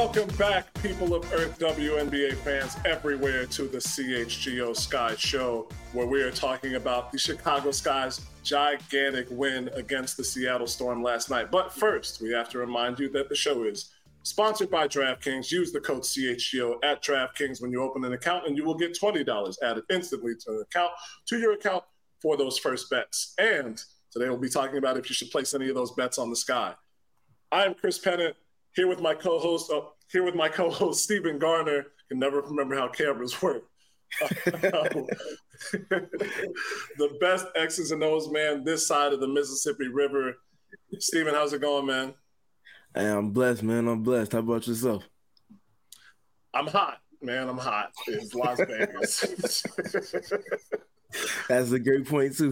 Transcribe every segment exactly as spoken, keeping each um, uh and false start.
Welcome back, people of Earth, W N B A fans everywhere, to the C H G O Sky Show, where we are talking about the Chicago Sky's gigantic win against the Seattle Storm last night. But first, we have to remind you that the show is sponsored by DraftKings. Use the code C H G O at DraftKings when you open an account, and you will get twenty dollars added instantly to an account, to your account for those first bets. And today we'll be talking about if you should place any of those bets on the Sky. I'm Chris Pennant. Here with my co-host, uh, here with my co-host Stephen Garner. Can never remember how cameras work. The best X's and O's man this side of the Mississippi River. Stephen, how's it going, man? Hey, I'm blessed, man. I'm blessed. How about yourself? I'm hot, man. I'm hot. It's Las Vegas. That's a great point too.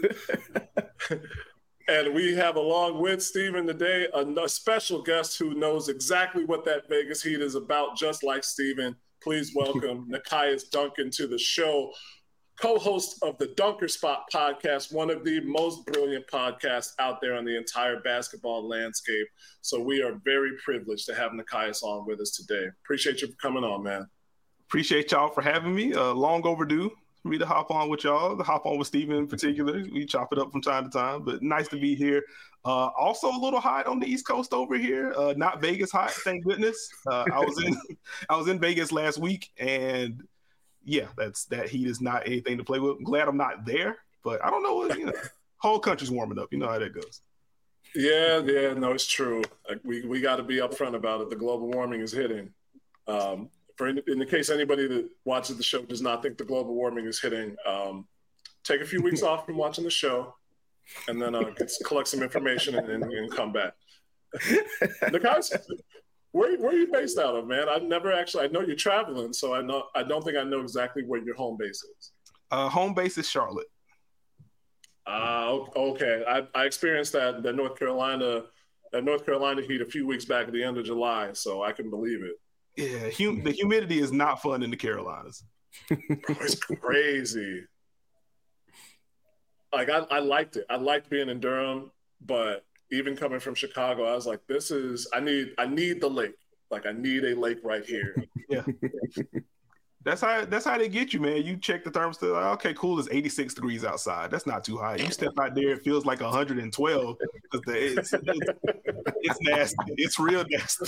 And we have along with Stephen today a, a special guest who knows exactly what that Vegas heat is about, just like Stephen. Please welcome Nekias Duncan to the show, co-host of the Dunker Spot podcast, one of the most brilliant podcasts out there on the entire basketball landscape. So we are very privileged to have Nekias on with us today. Appreciate you for coming on, man. Appreciate y'all for having me. Uh, long overdue. For me to hop on with y'all, to hop on with Stephen in particular. We chop it up from time to time, but nice to be here. Uh, also a little hot on the East Coast over here. Uh, not Vegas hot, thank goodness. Uh, I was in I was in Vegas last week, and yeah, that's that heat is not anything to play with. I'm glad I'm not there, but I don't know what, you know, whole country's warming up. You know how that goes. Yeah, yeah, no, it's true. Like, we we got to be upfront about it. The global warming is hitting. Um, For in, in the case anybody that watches the show does not think the global warming is hitting, um, take a few weeks off from watching the show, and then uh, get, collect some information and, and, and come back. Nekias, where where are you based out of, man? I've never actually. I know you're traveling, so I know I don't think I know exactly where your home base is. Uh, home base is Charlotte. Uh, okay. I, I experienced that the North Carolina that North Carolina heat a few weeks back at the end of July, so I can believe it. Yeah, hum- the humidity is not fun in the Carolinas. Bro, it's crazy. Like, I, I liked it. I liked being in Durham, but even coming from Chicago, I was like, this is, I need, I need the lake. Like, I need a lake right here. Yeah. That's how that's how they get you, man. You check the thermostat, like, okay, cool, it's eighty-six degrees outside. That's not too high. You step out there, it feels like one hundred twelve. It's, it's, it's nasty. It's real nasty.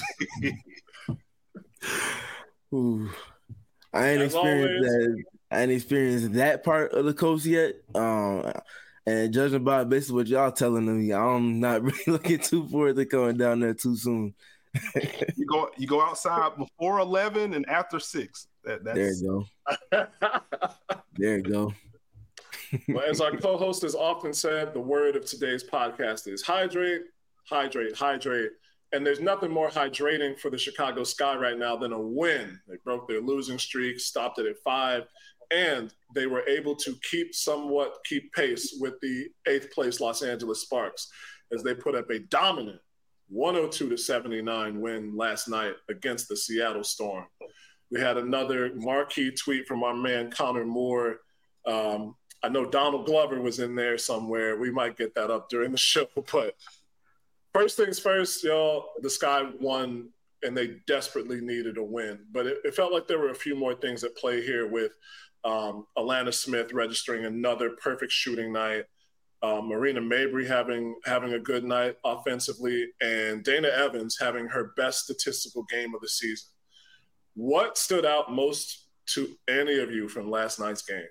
Ooh, I ain't As experienced always, that. I ain't experienced that part of the coast yet. Um, and judging by basically what y'all telling me, I'm not really looking too forward to going down there too soon. you go, you go outside before eleven and after six. That, that's... There you go. There you go. Well, as our co-host has often said, the word of today's podcast is hydrate, hydrate, hydrate. And there's nothing more hydrating for the Chicago Sky right now than a win. They broke their losing streak, stopped it at five, and they were able to keep somewhat keep pace with the eighth place Los Angeles Sparks as they put up a dominant one oh two to seventy-nine win last night against the Seattle Storm. We had another marquee tweet from our man Connor Moore. Um, I know Donald Glover was in there somewhere. We might get that up during the show, but first things first, y'all, the Sky won, and they desperately needed a win. But it, it felt like there were a few more things at play here with um, Alana Smith registering another perfect shooting night, uh, Marina Mabrey having having a good night offensively, and Dana Evans having her best statistical game of the season. What stood out most to any of you from last night's game?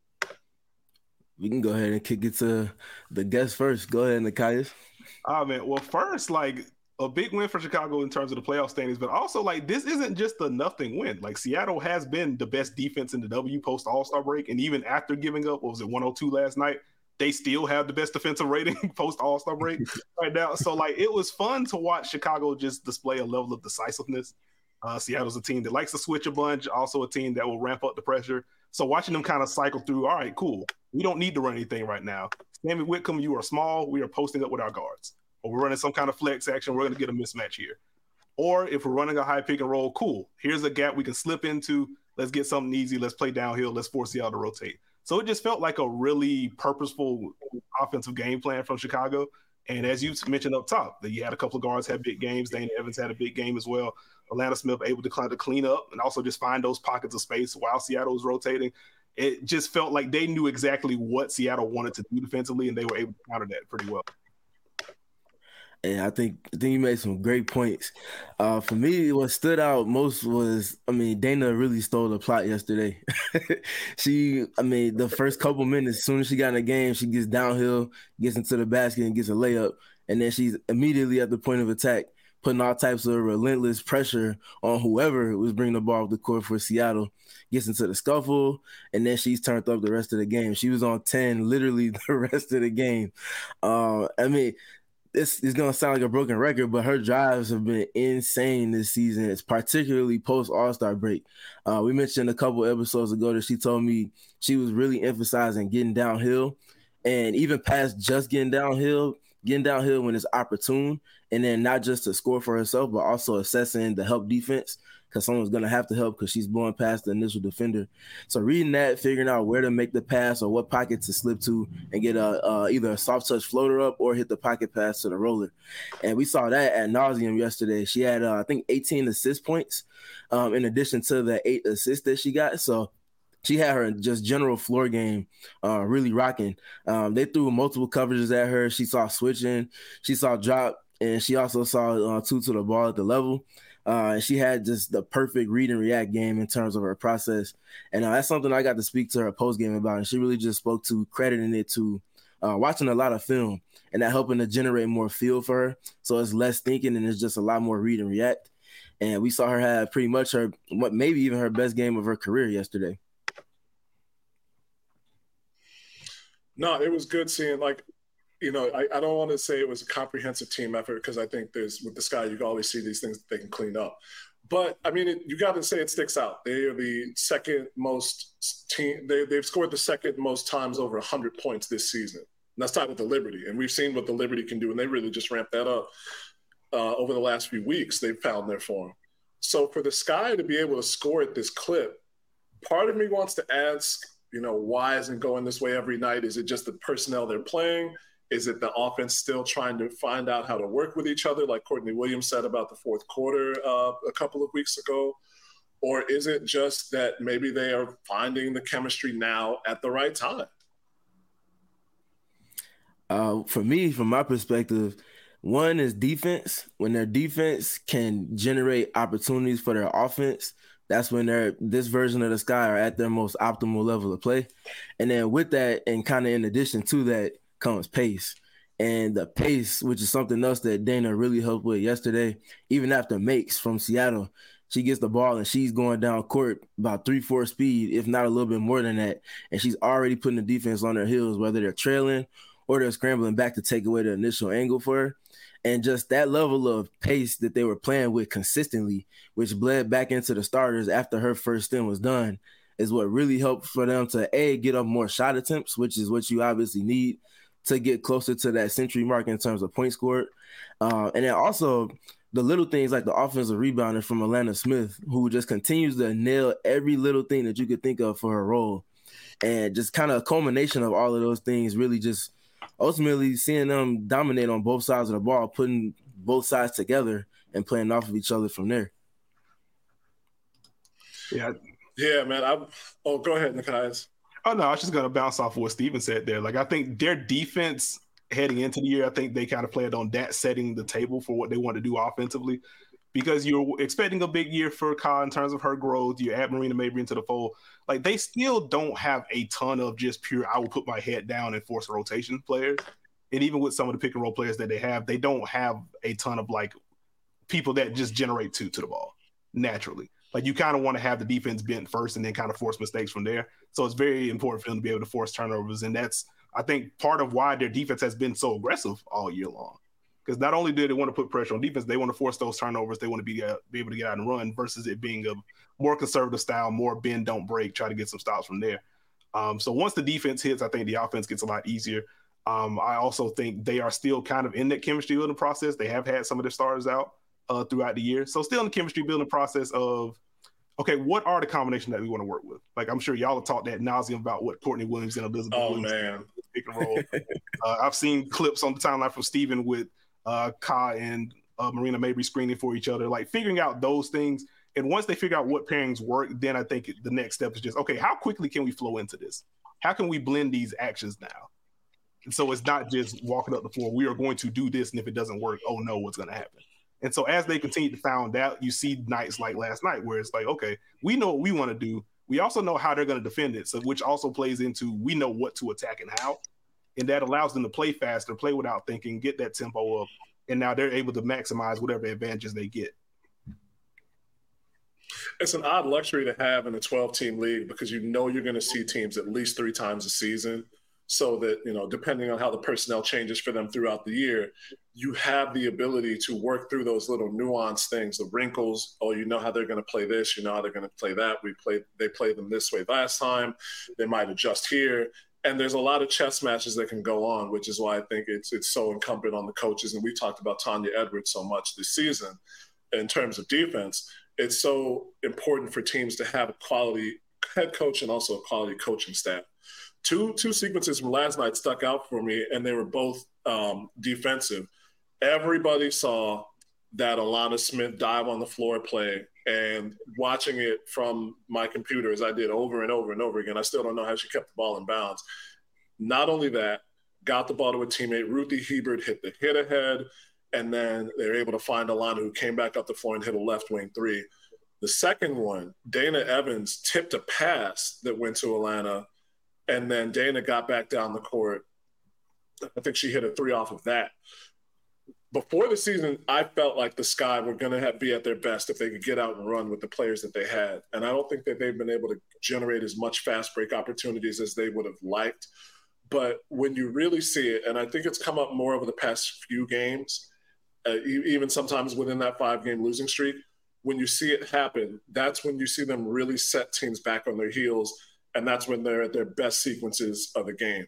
We can go ahead and kick it to the guest first. Go ahead, Nekias. Ah, man. Well, first, like, a big win for Chicago in terms of the playoff standings, but also, like, this isn't just a nothing win. Like, Seattle has been the best defense in the W post All-Star break, and even after giving up, what was it, one oh two last night, they still have the best defensive rating post All-Star break right now. So, like, it was fun to watch Chicago just display a level of decisiveness. Uh, Seattle's a team that likes to switch a bunch, also a team that will ramp up the pressure. So watching them kind of cycle through, all right, cool. We don't need to run anything right now. Sammy Whitcomb, you are small. We are posting up with our guards. Or we're running some kind of flex action. We're going to get a mismatch here. Or if we're running a high pick and roll, cool. Here's a gap we can slip into. Let's get something easy. Let's play downhill. Let's force Seattle to rotate. So it just felt like a really purposeful offensive game plan from Chicago. And as you mentioned up top, that you had a couple of guards have big games. Dana Evans had a big game as well. Atlanta Smith able to kind of clean up and also just find those pockets of space while Seattle was rotating. It just felt like they knew exactly what Seattle wanted to do defensively, and they were able to counter that pretty well. And I think I think you made some great points. Uh, for me, what stood out most was, I mean, Dana really stole the plot yesterday. she, I mean, the first couple minutes, as soon as she got in the game, she gets downhill, gets into the basket, and gets a layup. And then she's immediately at the point of attack, putting all types of relentless pressure on whoever was bringing the ball up the court for Seattle. Gets into the scuffle, and then she's turned up the rest of the game. She was on ten literally the rest of the game. Uh, I mean, This is going to sound like a broken record, but her drives have been insane this season. It's particularly post All-Star break. Uh, we mentioned a couple episodes ago that she told me she was really emphasizing getting downhill, and even past just getting downhill, getting downhill when it's opportune, and then not just to score for herself, but also assessing the help defense, because someone's going to have to help because she's blowing past the initial defender. So reading that, figuring out where to make the pass or what pocket to slip to and get a uh, either a soft touch floater up or hit the pocket pass to the roller. And we saw that ad nauseum yesterday. She had, uh, I think, eighteen assist points um, in addition to the eight assists that she got. So she had her just general floor game uh, really rocking. Um, they threw multiple coverages at her. She saw switching. She saw drop. And she also saw uh, two to the ball at the level. Uh, and she had just the perfect read and react game in terms of her process. And uh, that's something I got to speak to her post game about. And she really just spoke to crediting it to uh, watching a lot of film and that helping to generate more feel for her. So it's less thinking and it's just a lot more read and react. And we saw her have pretty much her, what maybe even her best game of her career yesterday. No, it was good seeing, like, you know, I, I don't want to say it was a comprehensive team effort because I think there's, with the Sky, you can always see these things that they can clean up. But, I mean, it, you got to say it sticks out. They are the second most team. They, they've scored the second most times over one hundred points this season. And that's tied with the Liberty. And we've seen what the Liberty can do, and they really just ramped that up uh, over the last few weeks. They've found their form. So for the Sky to be able to score at this clip, part of me wants to ask, you know, why isn't it going this way every night? Is it just the personnel they're playing? Is it the offense still trying to find out how to work with each other, like Courtney Williams said about the fourth quarter uh, a couple of weeks ago? Or is it just that maybe they are finding the chemistry now at the right time? Uh, for me, from my perspective, one is defense. When their defense can generate opportunities for their offense, that's when they're this version of the Sky are at their most optimal level of play. And then with that, and kind of in addition to that, comes pace. And the pace, which is something else that Dana really helped with yesterday, even after makes from Seattle, she gets the ball and she's going down court about three, four speed, if not a little bit more than that. And she's already putting the defense on their heels, whether they're trailing or they're scrambling back to take away the initial angle for her. And just that level of pace that they were playing with consistently, which bled back into the starters after her first stint was done, is what really helped for them to, A, get up more shot attempts, which is what you obviously need to get closer to that century mark in terms of points scored. Uh, and then also the little things like the offensive rebounder from Atlanta Smith, who just continues to nail every little thing that you could think of for her role. And just kind of a culmination of all of those things, really just ultimately seeing them dominate on both sides of the ball, putting both sides together and playing off of each other from there. Yeah. Yeah, man. I, oh, go ahead, Nikias. Oh, no, I was just going to bounce off of what Steven said there. Like, I think their defense heading into the year, I think they kind of played on that, setting the table for what they want to do offensively, because you're expecting a big year for Ka in terms of her growth. You add Marina Mabrey into the fold. Like, they still don't have a ton of just pure, I will put my head down and force a rotation players. And even with some of the pick and roll players that they have, they don't have a ton of, like, people that just generate two to the ball naturally. Like, you kind of want to have the defense bent first and then kind of force mistakes from there. So it's very important for them to be able to force turnovers. And that's, I think, part of why their defense has been so aggressive all year long. Because not only do they want to put pressure on defense, they want to force those turnovers. They want to be, uh, be able to get out and run versus it being a more conservative style, more bend, don't break, try to get some stops from there. Um, so once the defense hits, I think the offense gets a lot easier. Um, I also think they are still kind of in that chemistry building process. They have had some of their starters out uh, throughout the year. So still in the chemistry building process of, okay, what are the combinations that we want to work with? Like, I'm sure y'all have talked ad nauseum about what Courtney Williams and Elizabeth oh, Williams man. pick and roll. uh, I've seen clips on the timeline from Steven with uh, Ka and uh, Marina Mabrey screening for each other, like figuring out those things. And once they figure out what pairings work, then I think the next step is just, okay, how quickly can we flow into this? How can we blend these actions now? And so it's not just walking up the floor, we are going to do this, and if it doesn't work, oh no, what's going to happen? And so as they continue to find out, you see nights like last night where it's like, okay, we know what we want to do. We also know how they're going to defend it, so which also plays into we know what to attack and how. And that allows them to play faster, play without thinking, get that tempo up, and now they're able to maximize whatever advantages they get. It's an odd luxury to have in a twelve-team league because you know you're going to see teams at least three times a season. So that, you know, depending on how the personnel changes for them throughout the year, you have the ability to work through those little nuanced things, the wrinkles. Oh, you know how they're going to play this. You know how they're going to play that. We played, they played them this way last time. They might adjust here. And there's a lot of chess matches that can go on, which is why I think it's it's so incumbent on the coaches. And we talked about Tanya Edwards so much this season in terms of defense. It's so important for teams to have a quality head coach and also a quality coaching staff. Two two sequences from last night stuck out for me, and they were both um, defensive. Everybody saw that Alana Smith dive on the floor play, and watching it from my computer as I did over and over and over again, I still don't know how she kept the ball in bounds. Not only that, got the ball to a teammate. Ruthie Hebert hit the hit ahead, and then they were able to find Alana, who came back up the floor and hit a left wing three. The second one, Dana Evans tipped a pass that went to Alana, and then Dana got back down the court. I think she hit a three off of that. Before the season, I felt like the Sky were going to have, be at their best if they could get out and run with the players that they had. And I don't think that they've been able to generate as much fast break opportunities as they would have liked. But when you really see it, and I think it's come up more over the past few games, uh, even sometimes within that five-game losing streak, when you see it happen, that's when you see them really set teams back on their heels. And that's when they're at their best sequences of the game.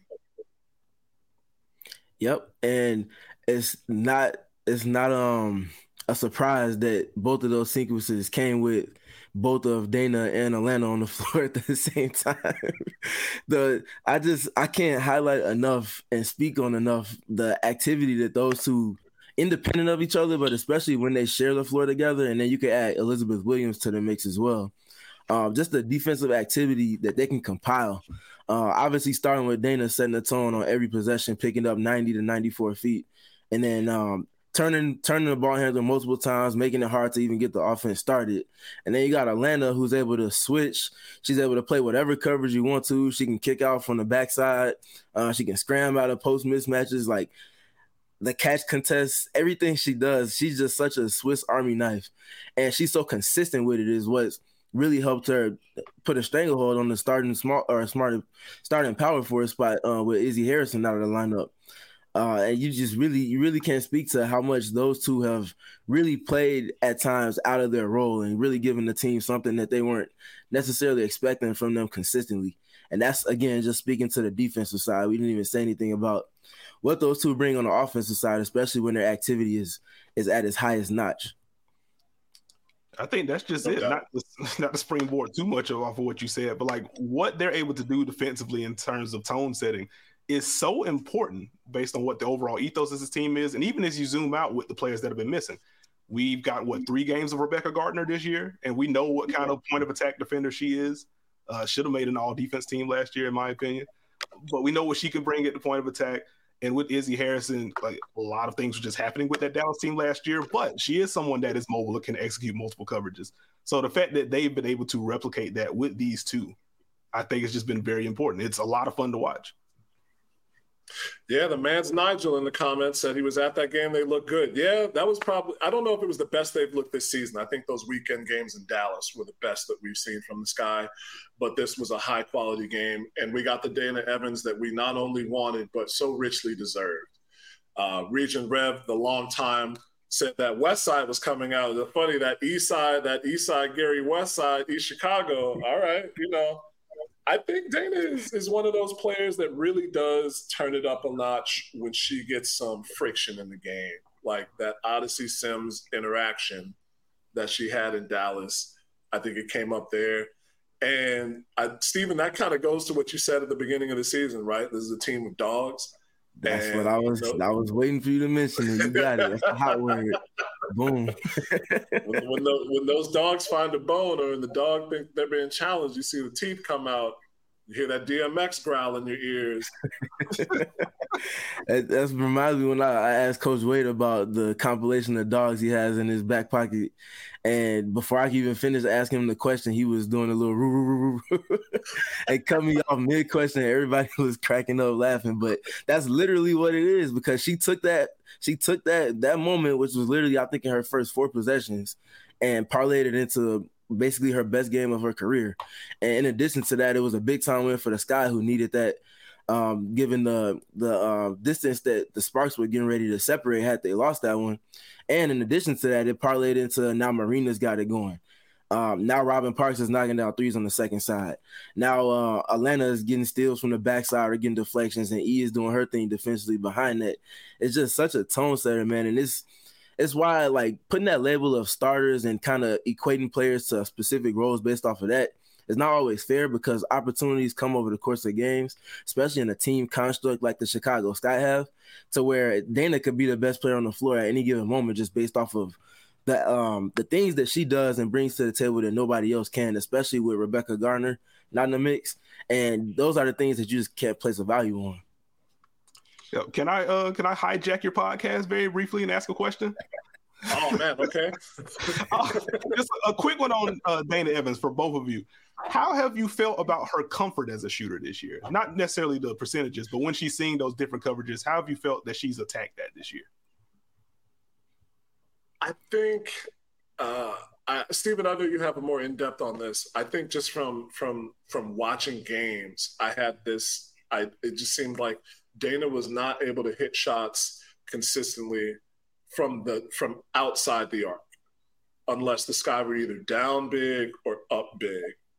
Yep. And it's not it's not um a surprise that both of those sequences came with both of Dana and Alana on the floor at the same time. the I just I can't highlight enough and speak on enough the activity that those two, independent of each other, but especially when they share the floor together, and then you can add Elizabeth Williams to the mix as well. Um, just the defensive activity that they can compile. Uh, obviously, starting with Dana setting the tone on every possession, picking up ninety to ninety-four feet, and then um, turning turning the ball handler multiple times, making it hard to even get the offense started. And then you got Alana, who's able to switch. She's able to play whatever coverage you want to. She can kick out from the backside. Uh, she can scram out of post mismatches, like the catch contests, everything she does. She's just such a Swiss Army knife, and she's so consistent with it is what's really helped her put a stranglehold on the starting smart or smart starting power forward spot uh, with Izzy Harrison out of the lineup. Uh, and you just really, you really can't speak to how much those two have really played at times out of their role and really given the team something that they weren't necessarily expecting from them consistently. And that's, again, just speaking to the defensive side. We didn't even say anything about what those two bring on the offensive side, especially when their activity is is at its highest notch. I think that's just it. Not to, not to springboard too much off of what you said, but like what they're able to do defensively in terms of tone setting is so important based on what the overall ethos of this team is. And even as you zoom out with the players that have been missing, we've got what three games of Rebecca Gardner this year, and we know what kind of point of attack defender she is. Uh, should have made an all defense team last year, in my opinion. But we know what she can bring at the point of attack. And with Izzy Harrison, like a lot of things were just happening with that Dallas team last year, but she is someone that is mobile and can execute multiple coverages. So the fact that they've been able to replicate that with these two, I think it's just been very important. It's a lot of fun to watch. Yeah, the man's Nigel in the comments said he was at that game. They look good. Yeah, that was probably – I don't know if it was the best they've looked this season. I think those weekend games in Dallas were the best that we've seen from the Sky. But this was a high-quality game, and we got the Dana Evans that we not only wanted but so richly deserved. Uh, Region Rev, the long time, said that West Side was coming out. It's funny, that East Side, that East Side Gary West Side, East Chicago. All right, you know. I think Dana is, is one of those players that really does turn it up a notch when she gets some friction in the game, like that Odyssey Sims interaction that she had in Dallas. I think it came up there. And I, Steven, that kind of goes to what you said at the beginning of the season, right? This is a team of dogs. That's and, what I was. You know, I was waiting for you to mention it. You got it. That's the hot word. Boom. when, when, the, when those dogs find a bone, or when the dog think they're being challenged, you see the teeth come out. You hear that D M X growl in your ears. That's reminds me when I, I asked Coach Wade about the compilation of dogs he has in his back pocket. And before I could even finish asking him the question, he was doing a little roo roo roo roo and cut me off mid question. Everybody was cracking up laughing. But that's literally what it is, because she took that she took that that moment, which was literally, I think, in her first four possessions, and parlayed it into basically her best game of her career. And in addition to that, it was a big time win for the Sky, who needed that, um, given the the uh, distance that the Sparks were getting ready to separate had they lost that one. And in addition to that, it parlayed into now Marina's got it going. Um, now Robin Parks is knocking down threes on the second side. Now uh, Atlanta is getting steals from the backside or getting deflections, and E is doing her thing defensively behind that. It's just such a tone setter, man. And it's It's why, like, putting that label of starters and kind of equating players to specific roles based off of that is not always fair, because opportunities come over the course of games, especially in a team construct like the Chicago Sky have, to where Dana could be the best player on the floor at any given moment just based off of the um the things that she does and brings to the table that nobody else can, especially with Rebecca Garner not in the mix. And those are the things that you just can't place a value on. Can I uh can I hijack your podcast very briefly and ask a question? Oh man, okay. uh, just a quick one on uh, Dana Evans for both of you. How have you felt about her comfort as a shooter this year? Not necessarily the percentages, but when she's seeing those different coverages, how have you felt that she's attacked that this year? I think, uh, I, Stephen, I know you have a more in depth on this. I think just from from from watching games, I had this. I it just seemed like Dana was not able to hit shots consistently from the from outside the arc, unless the Sky were either down big or up big.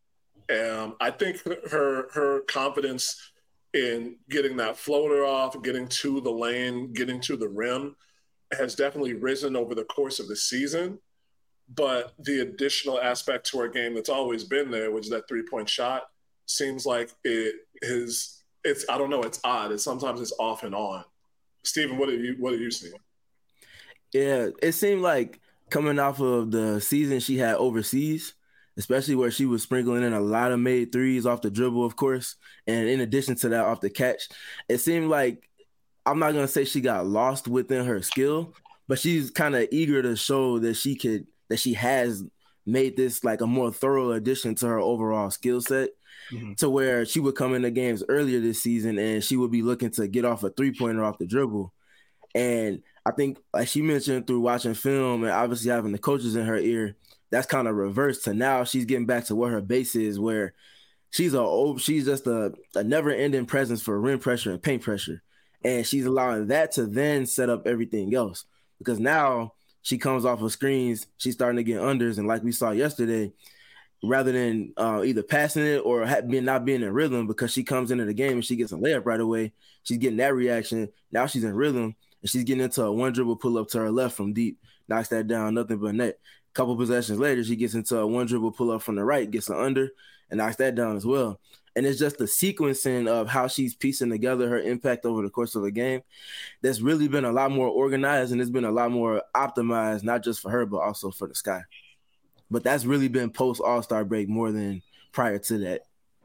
And I think her her confidence in getting that floater off, getting to the lane, getting to the rim has definitely risen over the course of the season. But the additional aspect to her game that's always been there, which is that three-point shot, seems like it is it's I don't know, it's odd. It's sometimes it's off and on. Stephen, what are you what are you seeing? Yeah, it seemed like coming off of the season she had overseas, especially where she was sprinkling in a lot of made threes off the dribble, of course, and in addition to that, off the catch, it seemed like, I'm not going to say she got lost within her skill, but she's kind of eager to show that she could, that she has made this like a more thorough addition to her overall skill set, mm-hmm. to where she would come into games earlier this season and she would be looking to get off a three-pointer off the dribble. And I think, like she mentioned, through watching film and obviously having the coaches in her ear, that's kind of reversed to now she's getting back to what her base is, where she's a she's just a, a never-ending presence for rim pressure and paint pressure. And she's allowing that to then set up everything else, because now she comes off of screens, she's starting to get unders, and like we saw yesterday, rather than uh, either passing it or ha- being, not being in rhythm, because she comes into the game and she gets a layup right away, she's getting that reaction. Now she's in rhythm, and she's getting into a one dribble pull up to her left from deep, knocks that down, nothing but net. A couple possessions later, she gets into a one dribble pull up from the right, gets an under, and knocks that down as well. And it's just the sequencing of how she's piecing together her impact over the course of a game that's really been a lot more organized, and it's been a lot more optimized, not just for her, but also for the Sky. But that's really been post All-Star break more than prior to that.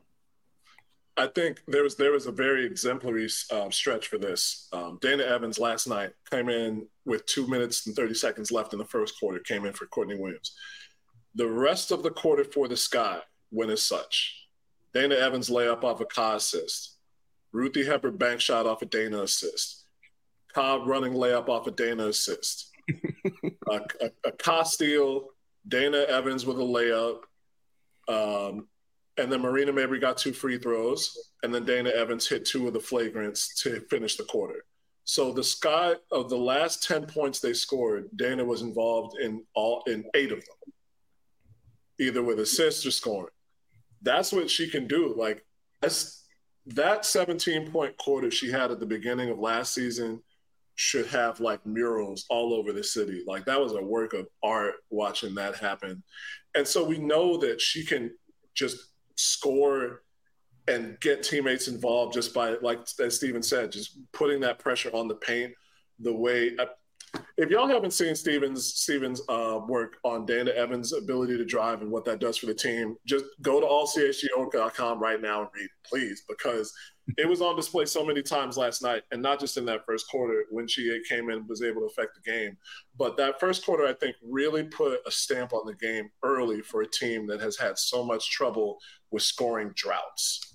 I think there was there was a very exemplary um, stretch for this. Um, Dana Evans last night came in with two minutes and thirty seconds left in the first quarter, came in for Courtney Williams. The rest of the quarter for the Sky went as such. Dana Evans layup off a Ka assist. Ruthie Hebert bank shot off a Dana assist. Cobb running layup off a Dana assist. a, a, a Ka steal, Dana Evans with a layup. Um, and then Marina Mabrey got two free throws. And then Dana Evans hit two of the flagrants to finish the quarter. So the Sky, of the last ten points they scored, Dana was involved in all in eight of them, either with assists or scoring. That's what she can do. Like, that's, that seventeen-point quarter she had at the beginning of last season should have, like, murals all over the city. Like, that was a work of art watching that happen. And so we know that she can just score and get teammates involved just by, like as Steven said, just putting that pressure on the paint the way – if y'all haven't seen Steven's Steven's uh, work on Dana Evans' ability to drive and what that does for the team, just go to all c h g o dot com right now and read it, please, because it was on display so many times last night, and not just in that first quarter when she came in and was able to affect the game. But that first quarter, I think, really put a stamp on the game early for a team that has had so much trouble with scoring droughts.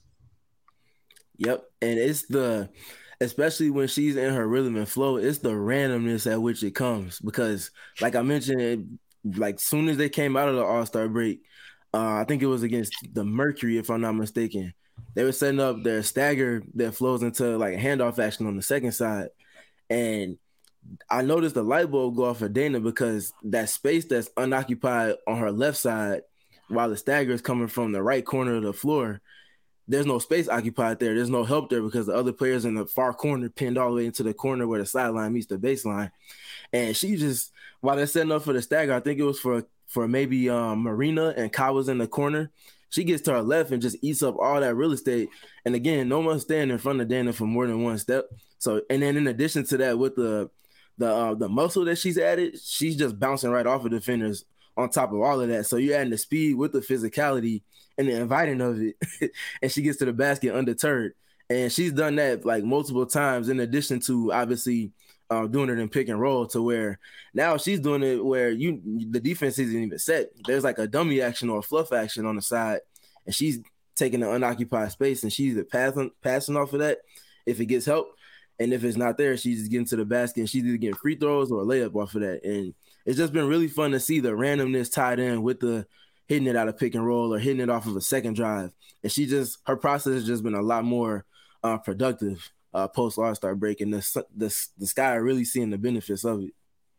Yep, and it's the – especially when she's in her rhythm and flow, it's the randomness at which it comes. Because, like I mentioned, it, like soon as they came out of the All-Star break, uh, I think it was against the Mercury, if I'm not mistaken, they were setting up their stagger that flows into like a handoff action on the second side. And I noticed the light bulb go off for Dana because that space that's unoccupied on her left side while the stagger is coming from the right corner of the floor, there's no space occupied there. There's no help there because the other players in the far corner pinned all the way into the corner where the sideline meets the baseline. And she just, while they're setting up for the stagger, I think it was for for maybe um, Marina and Kai was in the corner. She gets to her left and just eats up all that real estate. And again, no one's standing in front of Dana for more than one step. So, and then in addition to that, with the the uh, the muscle that she's added, she's just bouncing right off of defenders on top of all of that. So you're adding the speed with the physicality and the inviting of it, and she gets to the basket undeterred. And she's done that like multiple times in addition to obviously uh, doing it in pick and roll to where now she's doing it where you the defense isn't even set. There's like a dummy action or a fluff action on the side, and she's taking the unoccupied space, and she's passing, passing off of that if it gets help. And if it's not there, she's just getting to the basket, and she's either getting free throws or a layup off of that. And it's just been really fun to see the randomness tied in with the hitting it out of pick and roll or hitting it off of a second drive. And she just, her process has just been a lot more uh, productive uh, post All-Star break. And the, the, the Sky are really seeing the benefits of it.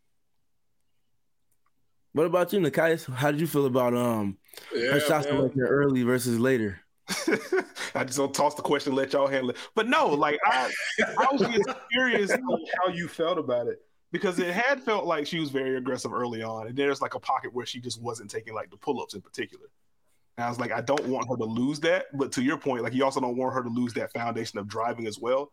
What about you, Nekias? How did you feel about um yeah, her shots selected early versus later? I just don't toss the question and let y'all handle it. But no, like I, I was just curious how you felt about it. Because it had felt like she was very aggressive early on. And there's like a pocket where she just wasn't taking like the pull-ups in particular. And I was like, I don't want her to lose that. But to your point, like you also don't want her to lose that foundation of driving as well.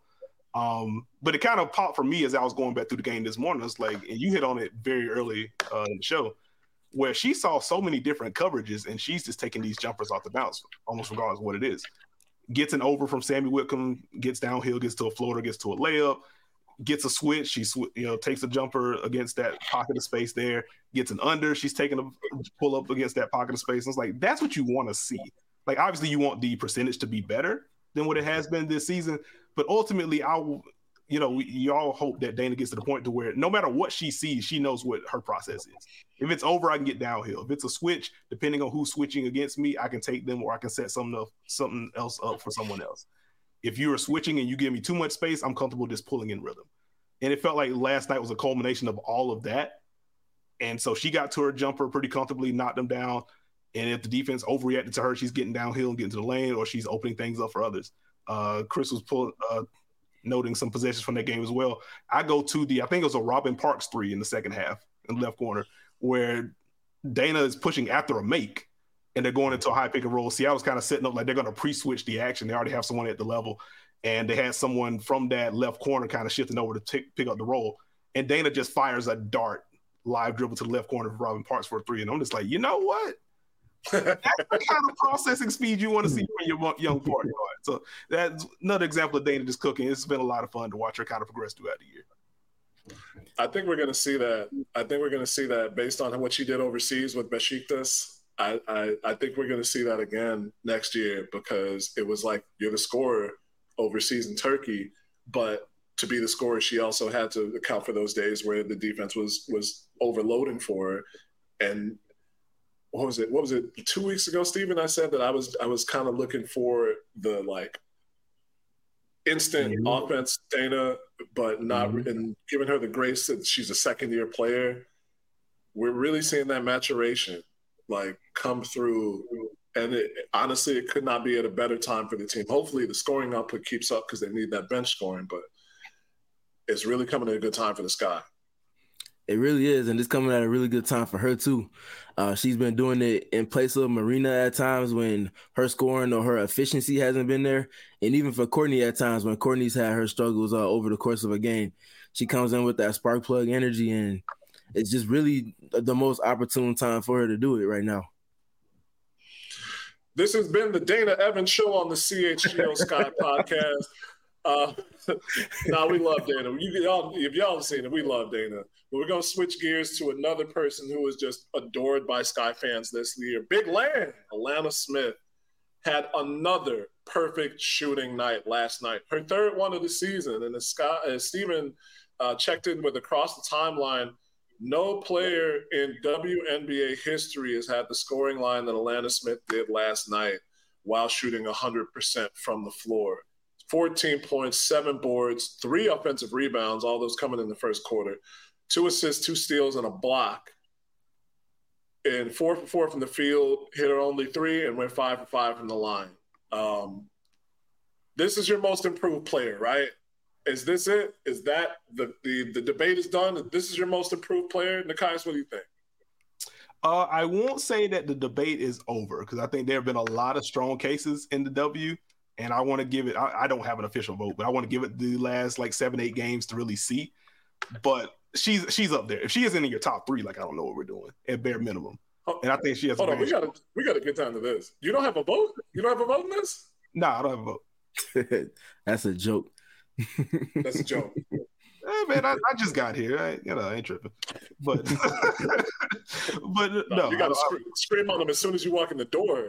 Um, but it kind of popped for me as I was going back through the game this morning. It's like, and you hit on it very early uh, in the show, where she saw so many different coverages and she's just taking these jumpers off the bounce, almost regardless of what it is. Gets an over from Sammy Whitcomb, gets downhill, gets to a floater, gets to a layup. Gets a switch, she sw- you know takes a jumper against that pocket of space there, gets an under, she's taking a pull up against that pocket of space. And it's like, that's what you want to see. Like, obviously you want the percentage to be better than what it has been this season, but ultimately I will, you know, we, you all hope that Dana gets to the point to where no matter what she sees, she knows what her process is. If it's over, I can get downhill. If it's a switch, depending on who's switching against me, I can take them or I can set something else, something else up for someone else. If you are switching and you give me too much space, I'm comfortable just pulling in rhythm. And it felt like last night was a culmination of all of that. And so she got to her jumper pretty comfortably, knocked them down. And if the defense overreacted to her, she's getting downhill and getting to the lane, or she's opening things up for others. Uh, Chris was pulling, uh, noting some possessions from that game as well. I go to the, I think it was a Robin Parks three in the second half in the left corner, where Dana is pushing after a make. And they're going into a high pick and roll. Seattle's kind of setting up like they're going to pre-switch the action. They already have someone at the level. And they had someone from that left corner kind of shifting over to t- pick up the roll. And Dana just fires a dart, live dribble to the left corner for Robin Parks for a three. And I'm just like, you know what? That's the kind of processing speed you want to see from your young point guard. So that's another example of Dana just cooking. It's been a lot of fun to watch her kind of progress throughout the year. I think we're going to see that. I think we're going to see that based on what she did overseas with Besiktas. I, I, I think we're going to see that again next year because it was like you're the scorer overseas in Turkey, but to be the scorer, she also had to account for those days where the defense was was overloading for her. And what was it? What was it? Two weeks ago, Steven, I said that I was I was kind of looking for the like instant mm-hmm. offense, Dana, but not mm-hmm. and giving her the grace that she's a second year player. We're really seeing that maturation like come through, and it, honestly, it could not be at a better time for the team. Hopefully, the scoring output keeps up because they need that bench scoring, but it's really coming at a good time for the Sky. It really is, and it's coming at a really good time for her too. Uh, she's been doing it in place of Marina at times when her scoring or her efficiency hasn't been there, and even for Courtney at times when Courtney's had her struggles uh, over the course of a game. She comes in with that spark plug energy, and it's just really the most opportune time for her to do it right now. This has been the Dana Evans Show on the C H G O Sky podcast. Uh, nah, we love Dana. You, y'all, if y'all have seen it, we love Dana. But we're going to switch gears to another person who is just adored by Sky fans this year. Big Lan, Alanna Smith, had another perfect shooting night last night. Her third one of the season. And as, Sky, as Steven uh, checked in with across the timeline, no player in W N B A history has had the scoring line that Alanna Smith did last night while shooting one hundred percent from the floor. fourteen points, seven boards, three offensive rebounds, all those coming in the first quarter, two assists, two steals, and a block. And four for four from the field, hit her only three, and went five for five from the line. Um, this is your most improved player, right? Is this it? Is that the, the, the debate is done? This is your most improved player? Nekias, what do you think? Uh, I won't say that the debate is over because I think there have been a lot of strong cases in the W. And I want to give it, I, I don't have an official vote, but I want to give it the last like seven, eight games to really see. But she's she's up there. If she isn't in your top three, like I don't know what we're doing at bare minimum. And I think she has Hold a on, we gotta we gotta get down to this. You don't have a vote? You don't have a vote in this? No, nah, I don't have a vote. That's a joke. That's a joke. Hey, man, I, I just got here. I, you know, I ain't tripping. But but no, no you gotta I, scream, scream on them as soon as you walk in the door.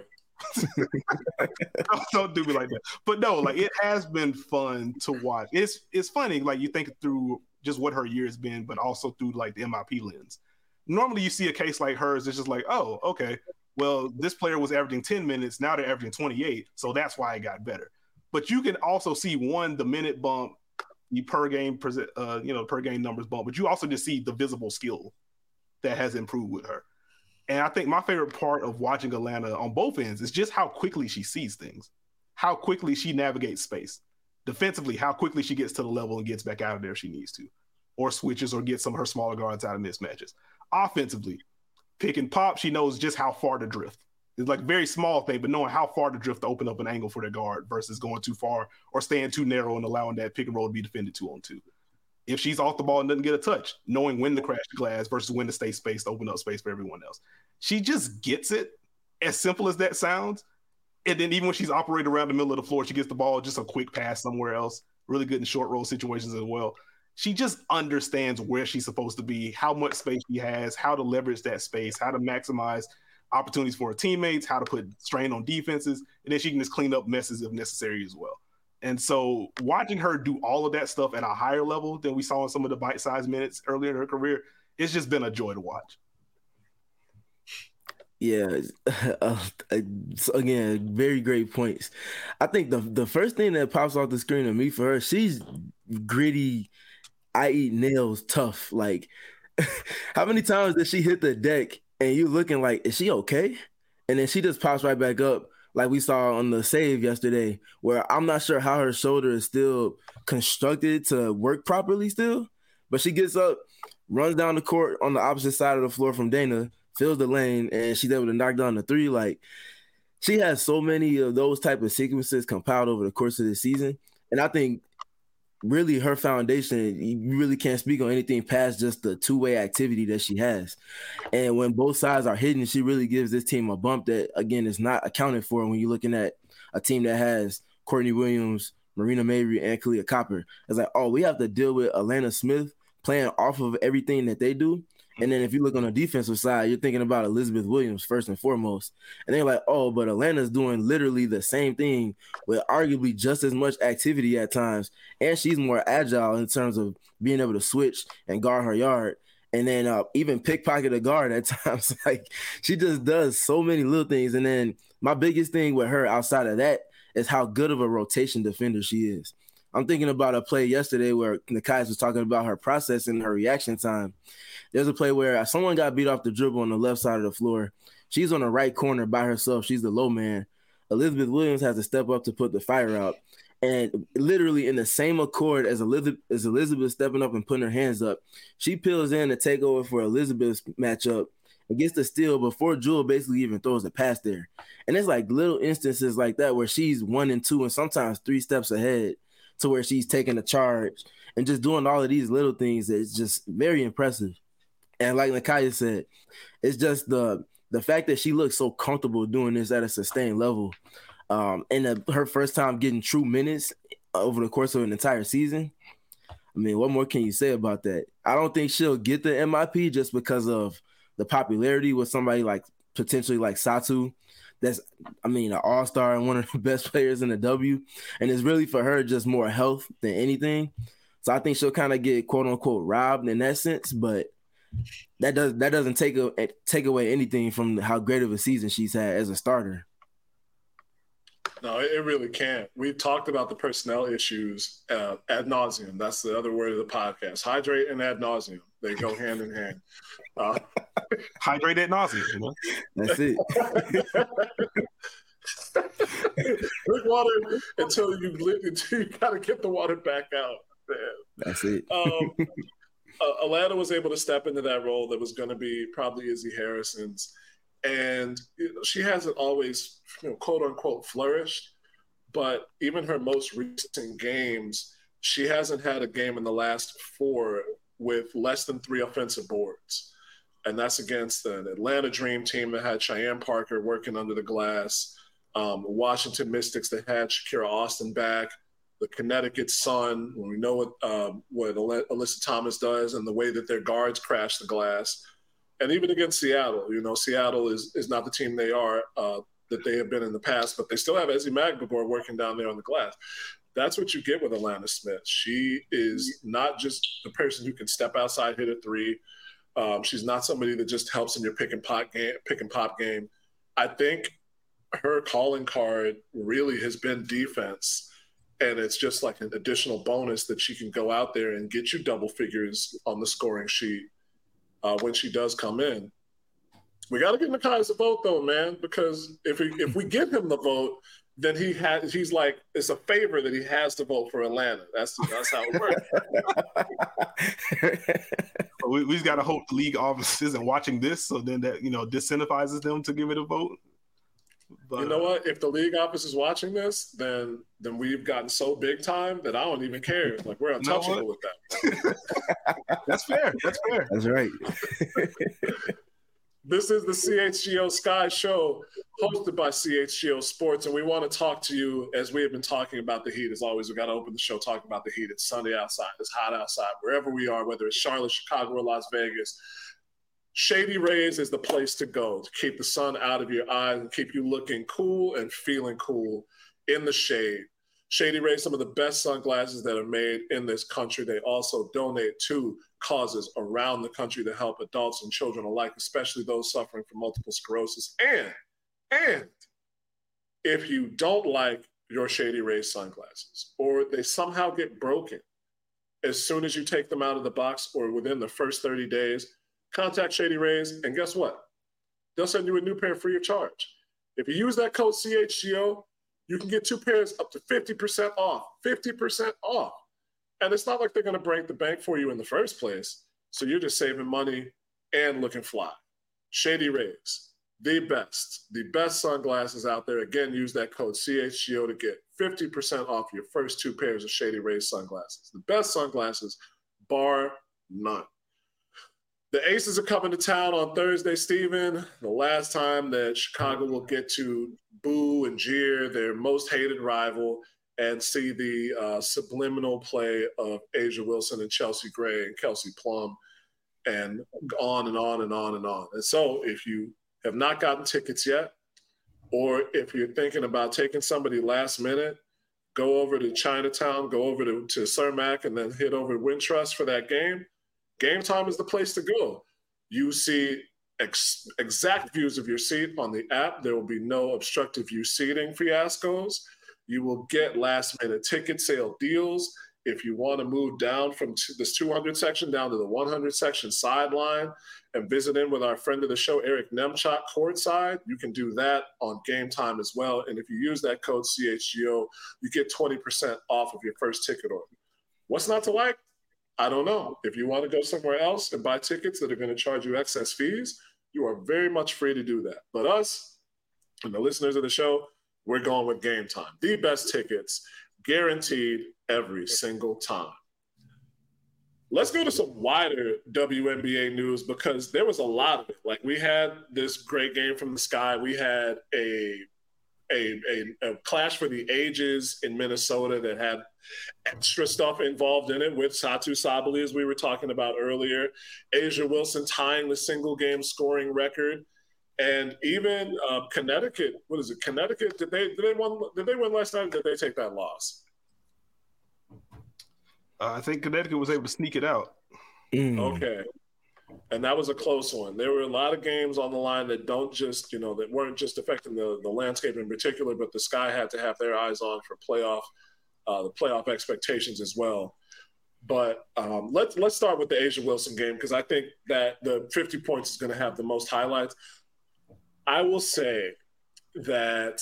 don't, don't do me like that. But no, like it has been fun to watch. It's it's funny, like you think through just what her year has been, but also through like the M I P lens. Normally you see a case like hers, it's just like, oh, okay, well, this player was averaging ten minutes, now they're averaging twenty-eight, so that's why it got better. But you can also see one, the minute bump, the per game, uh, you know, per game numbers bump, but you also just see the visible skill that has improved with her. And I think my favorite part of watching Alanna on both ends is just how quickly she sees things, how quickly she navigates space. Defensively, how quickly she gets to the level and gets back out of there if she needs to, or switches or gets some of her smaller guards out of mismatches. Offensively, pick and pop, she knows just how far to drift. It's like a very small thing, but knowing how far to drift to open up an angle for the guard versus going too far or staying too narrow and allowing that pick and roll to be defended two on two. If she's off the ball and doesn't get a touch, knowing when to crash the glass versus when to stay spaced to open up space for everyone else. She just gets it, as simple as that sounds. And then even when she's operating around the middle of the floor, she gets the ball, just a quick pass somewhere else. Really good in short roll situations as well. She just understands where she's supposed to be, how much space she has, how to leverage that space, how to maximize opportunities for her teammates, how to put strain on defenses, and then she can just clean up messes if necessary as well. And so watching her do all of that stuff at a higher level than we saw in some of the bite-sized minutes earlier in her career, it's just been a joy to watch. Yeah, uh, again, very great points. I think the the first thing that pops off the screen to me for her, she's gritty, I eat nails tough. Like, how many times did she hit the deck and you looking like, is she okay? And then she just pops right back up, like we saw on the save yesterday, where I'm not sure how her shoulder is still constructed to work properly still, but she gets up, runs down the court on the opposite side of the floor from Dana, fills the lane, and she's able to knock down the three. Like, she has so many of those type of sequences compiled over the course of the season. And I think really her foundation, you really can't speak on anything past just the two-way activity that she has. And when both sides are hitting, she really gives this team a bump that, again, is not accounted for when you're looking at a team that has Courtney Williams, Marina Mabrey, and Kahleah Copper. It's like, oh, we have to deal with Alanna Smith playing off of everything that they do. And then if you look on the defensive side, you're thinking about Elizabeth Williams first and foremost. And they're like, oh, but Alanna's doing literally the same thing with arguably just as much activity at times. And she's more agile in terms of being able to switch and guard her yard. And then uh, even pickpocket a guard at times. Like, she just does so many little things. And then my biggest thing with her outside of that is how good of a rotation defender she is. I'm thinking about a play yesterday where Nekias was talking about her process and her reaction time. There's a play where someone got beat off the dribble on the left side of the floor. She's on the right corner by herself. She's the low man. Elizabeth Williams has to step up to put the fire out. And literally in the same accord as Elizabeth, as Elizabeth stepping up and putting her hands up, she peels in to take over for Elizabeth's matchup and gets the steal before Jewel basically even throws the pass there. And it's like little instances like that where she's one and two and sometimes three steps ahead to where she's taking the charge and just doing all of these little things. It's just very impressive. And like Nakaya said, it's just the the fact that she looks so comfortable doing this at a sustained level. Um, and the, her first time getting true minutes over the course of an entire season. I mean, what more can you say about that? I don't think she'll get the M I P just because of the popularity with somebody like potentially like Satu. That's, I mean, an all-star and one of the best players in the W. And it's really for her just more health than anything. So I think she'll kind of get quote unquote robbed in that sense, but that does that doesn't take a, take away anything from how great of a season she's had as a starter. No, it really can't. We've talked about the personnel issues uh, ad nauseum. That's the other word of the podcast. Hydrate and ad nauseum. They go hand in hand. Uh, Hydrate ad nauseum. You know? That's it. Drink water until you until you gotta get the water back out. Man. That's it. um, uh, Atlanta was able to step into that role that was going to be probably Izzy Harrison's. And you know, she hasn't always, you know, quote unquote, flourished. But even her most recent games, she hasn't had a game in the last four with less than three offensive boards. And that's against an Atlanta Dream team that had Cheyenne Parker working under the glass, um, Washington Mystics that had Shakira Austin back, the Connecticut Sun, when we know what, um, what Alyssa Thomas does and the way that their guards crash the glass. And even against Seattle, you know, Seattle is is not the team they are uh, that they have been in the past, but they still have Ezi Magdabor working down there on the glass. That's what you get with Alana Smith. She is not just the person who can step outside, hit a three. Um, she's not somebody that just helps in your pick and pop game. Pick and pop game. I think her calling card really has been defense, and it's just like an additional bonus that she can go out there and get you double figures on the scoring sheet. Uh, when she does come in. We got to get Nakai's a vote, though, man, because if we, if we give him the vote, then he has he's like, it's a favor that he has to vote for Atlanta. That's that's how it works. we, we just got to hope the league office isn't watching this, so then that, you know, disincentivizes them to give it a vote. But, you know what? If the league office is watching this, then then we've gotten so big time that I don't even care. Like, we're untouchable you know with that. That's fair. That's fair. That's right. This is the C H G O Sky Show, hosted by C H G O Sports, and we want to talk to you as we have been talking about the heat. As always, we got to open the show talking about the heat. It's sunny outside. It's hot outside. Wherever we are, whether it's Charlotte, Chicago, or Las Vegas, Shady Rays is the place to go to keep the sun out of your eyes and keep you looking cool and feeling cool in the shade. Shady Rays, some of the best sunglasses that are made in this country. They also donate to causes around the country to help adults and children alike, especially those suffering from multiple sclerosis. And, and if you don't like your Shady Rays sunglasses, or they somehow get broken as soon as you take them out of the box or within the first thirty days, contact Shady Rays, and guess what? They'll send you a new pair free of charge. If you use that code C H G O, you can get two pairs up to fifty percent off, fifty percent off. And it's not like they're going to break the bank for you in the first place. So you're just saving money and looking fly. Shady Rays, the best, the best sunglasses out there. Again, use that code C H G O to get fifty percent off your first two pairs of Shady Rays sunglasses. The best sunglasses, bar none. The Aces are coming to town on Thursday, Steven. The last time that Chicago will get to boo and jeer their most hated rival and see the uh, subliminal play of Asia Wilson and Chelsea Gray and Kelsey Plum and on and on and on and on. And so if you have not gotten tickets yet, or if you're thinking about taking somebody last minute, go over to Chinatown, go over to, to Cermak, and then hit over to Wintrust for that game. Game Time is the place to go. You see ex- exact views of your seat on the app. There will be no obstructive view seating fiascos. You will get last-minute ticket sale deals. if you want to move down from t- this two hundred section down to the one hundred section sideline and visit in with our friend of the show, Eric Nemchok, courtside, you can do that on Game Time as well. And if you use that code C H G O, you get twenty percent off of your first ticket order. What's not to like? I don't know. If you want to go somewhere else and buy tickets that are going to charge you excess fees, you are very much free to do that. But us and the listeners of the show, we're going with Game Time. The best tickets, guaranteed every single time. Let's go to some wider W N B A news because there was a lot of it. Like, we had this great game from the sky. We had a a, a, a clash for the ages in Minnesota that had extra stuff involved in it with Satu Sabali, as we were talking about earlier, A'ja Wilson tying the single game scoring record, and even uh, Connecticut. What is it? Connecticut? Did they did they win? Did they win last night? Or did they take that loss? Uh, I think Connecticut was able to sneak it out. Mm. Okay. And that was a close one. There were a lot of games on the line that don't just, you know, that weren't just affecting the, the landscape in particular, but the Sky had to have their eyes on for playoff, uh, the playoff expectations as well. But um, let's let's start with the A'ja Wilson game because I think that the fifty points is going to have the most highlights. I will say that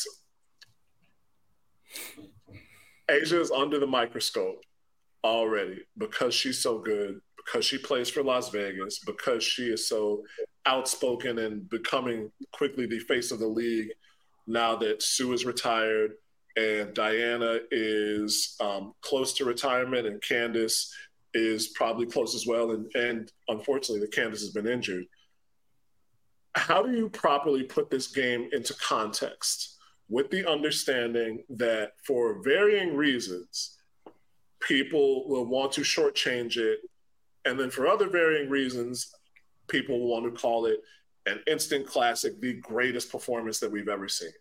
A'ja is under the microscope already because she's so good, because she plays for Las Vegas, because she is so outspoken and becoming quickly the face of the league now that Sue is retired and Diana is um, close to retirement and Candace is probably close as well. And, and unfortunately, the Candace has been injured. How do you properly put this game into context with the understanding that for varying reasons, people will want to shortchange it, and then for other varying reasons, people will want to call it an instant classic, the greatest performance that we've ever seen?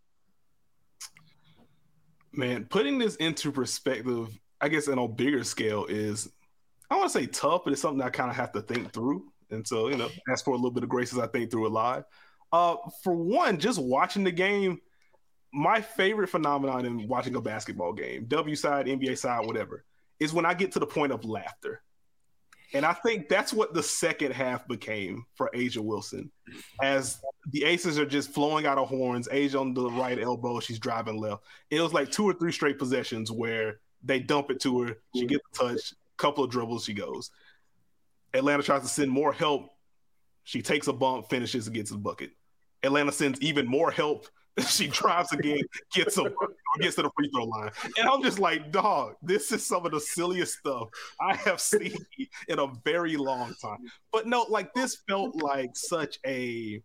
Man, putting this into perspective, I guess on a bigger scale is, I want to say tough, but it's something I kind of have to think through. And so, you know, ask for a little bit of grace as I think through it live. Uh, for one, just watching the game, my favorite phenomenon in watching a basketball game, W side, N B A side, whatever, is when I get to the point of laughter. And I think that's what the second half became for A'ja Wilson. As the aces are just flowing out of horns, A'ja on the right elbow, she's driving left. It was like two or three straight possessions where they dump it to her. She gets a touch, couple of dribbles, she goes. Atlanta tries to send more help. She takes a bump, finishes, and gets the bucket. Atlanta sends even more help. She drives again, gets a gets to the free throw line. And I'm just like, dog, this is some of the silliest stuff I have seen in a very long time. But no, like this felt like such a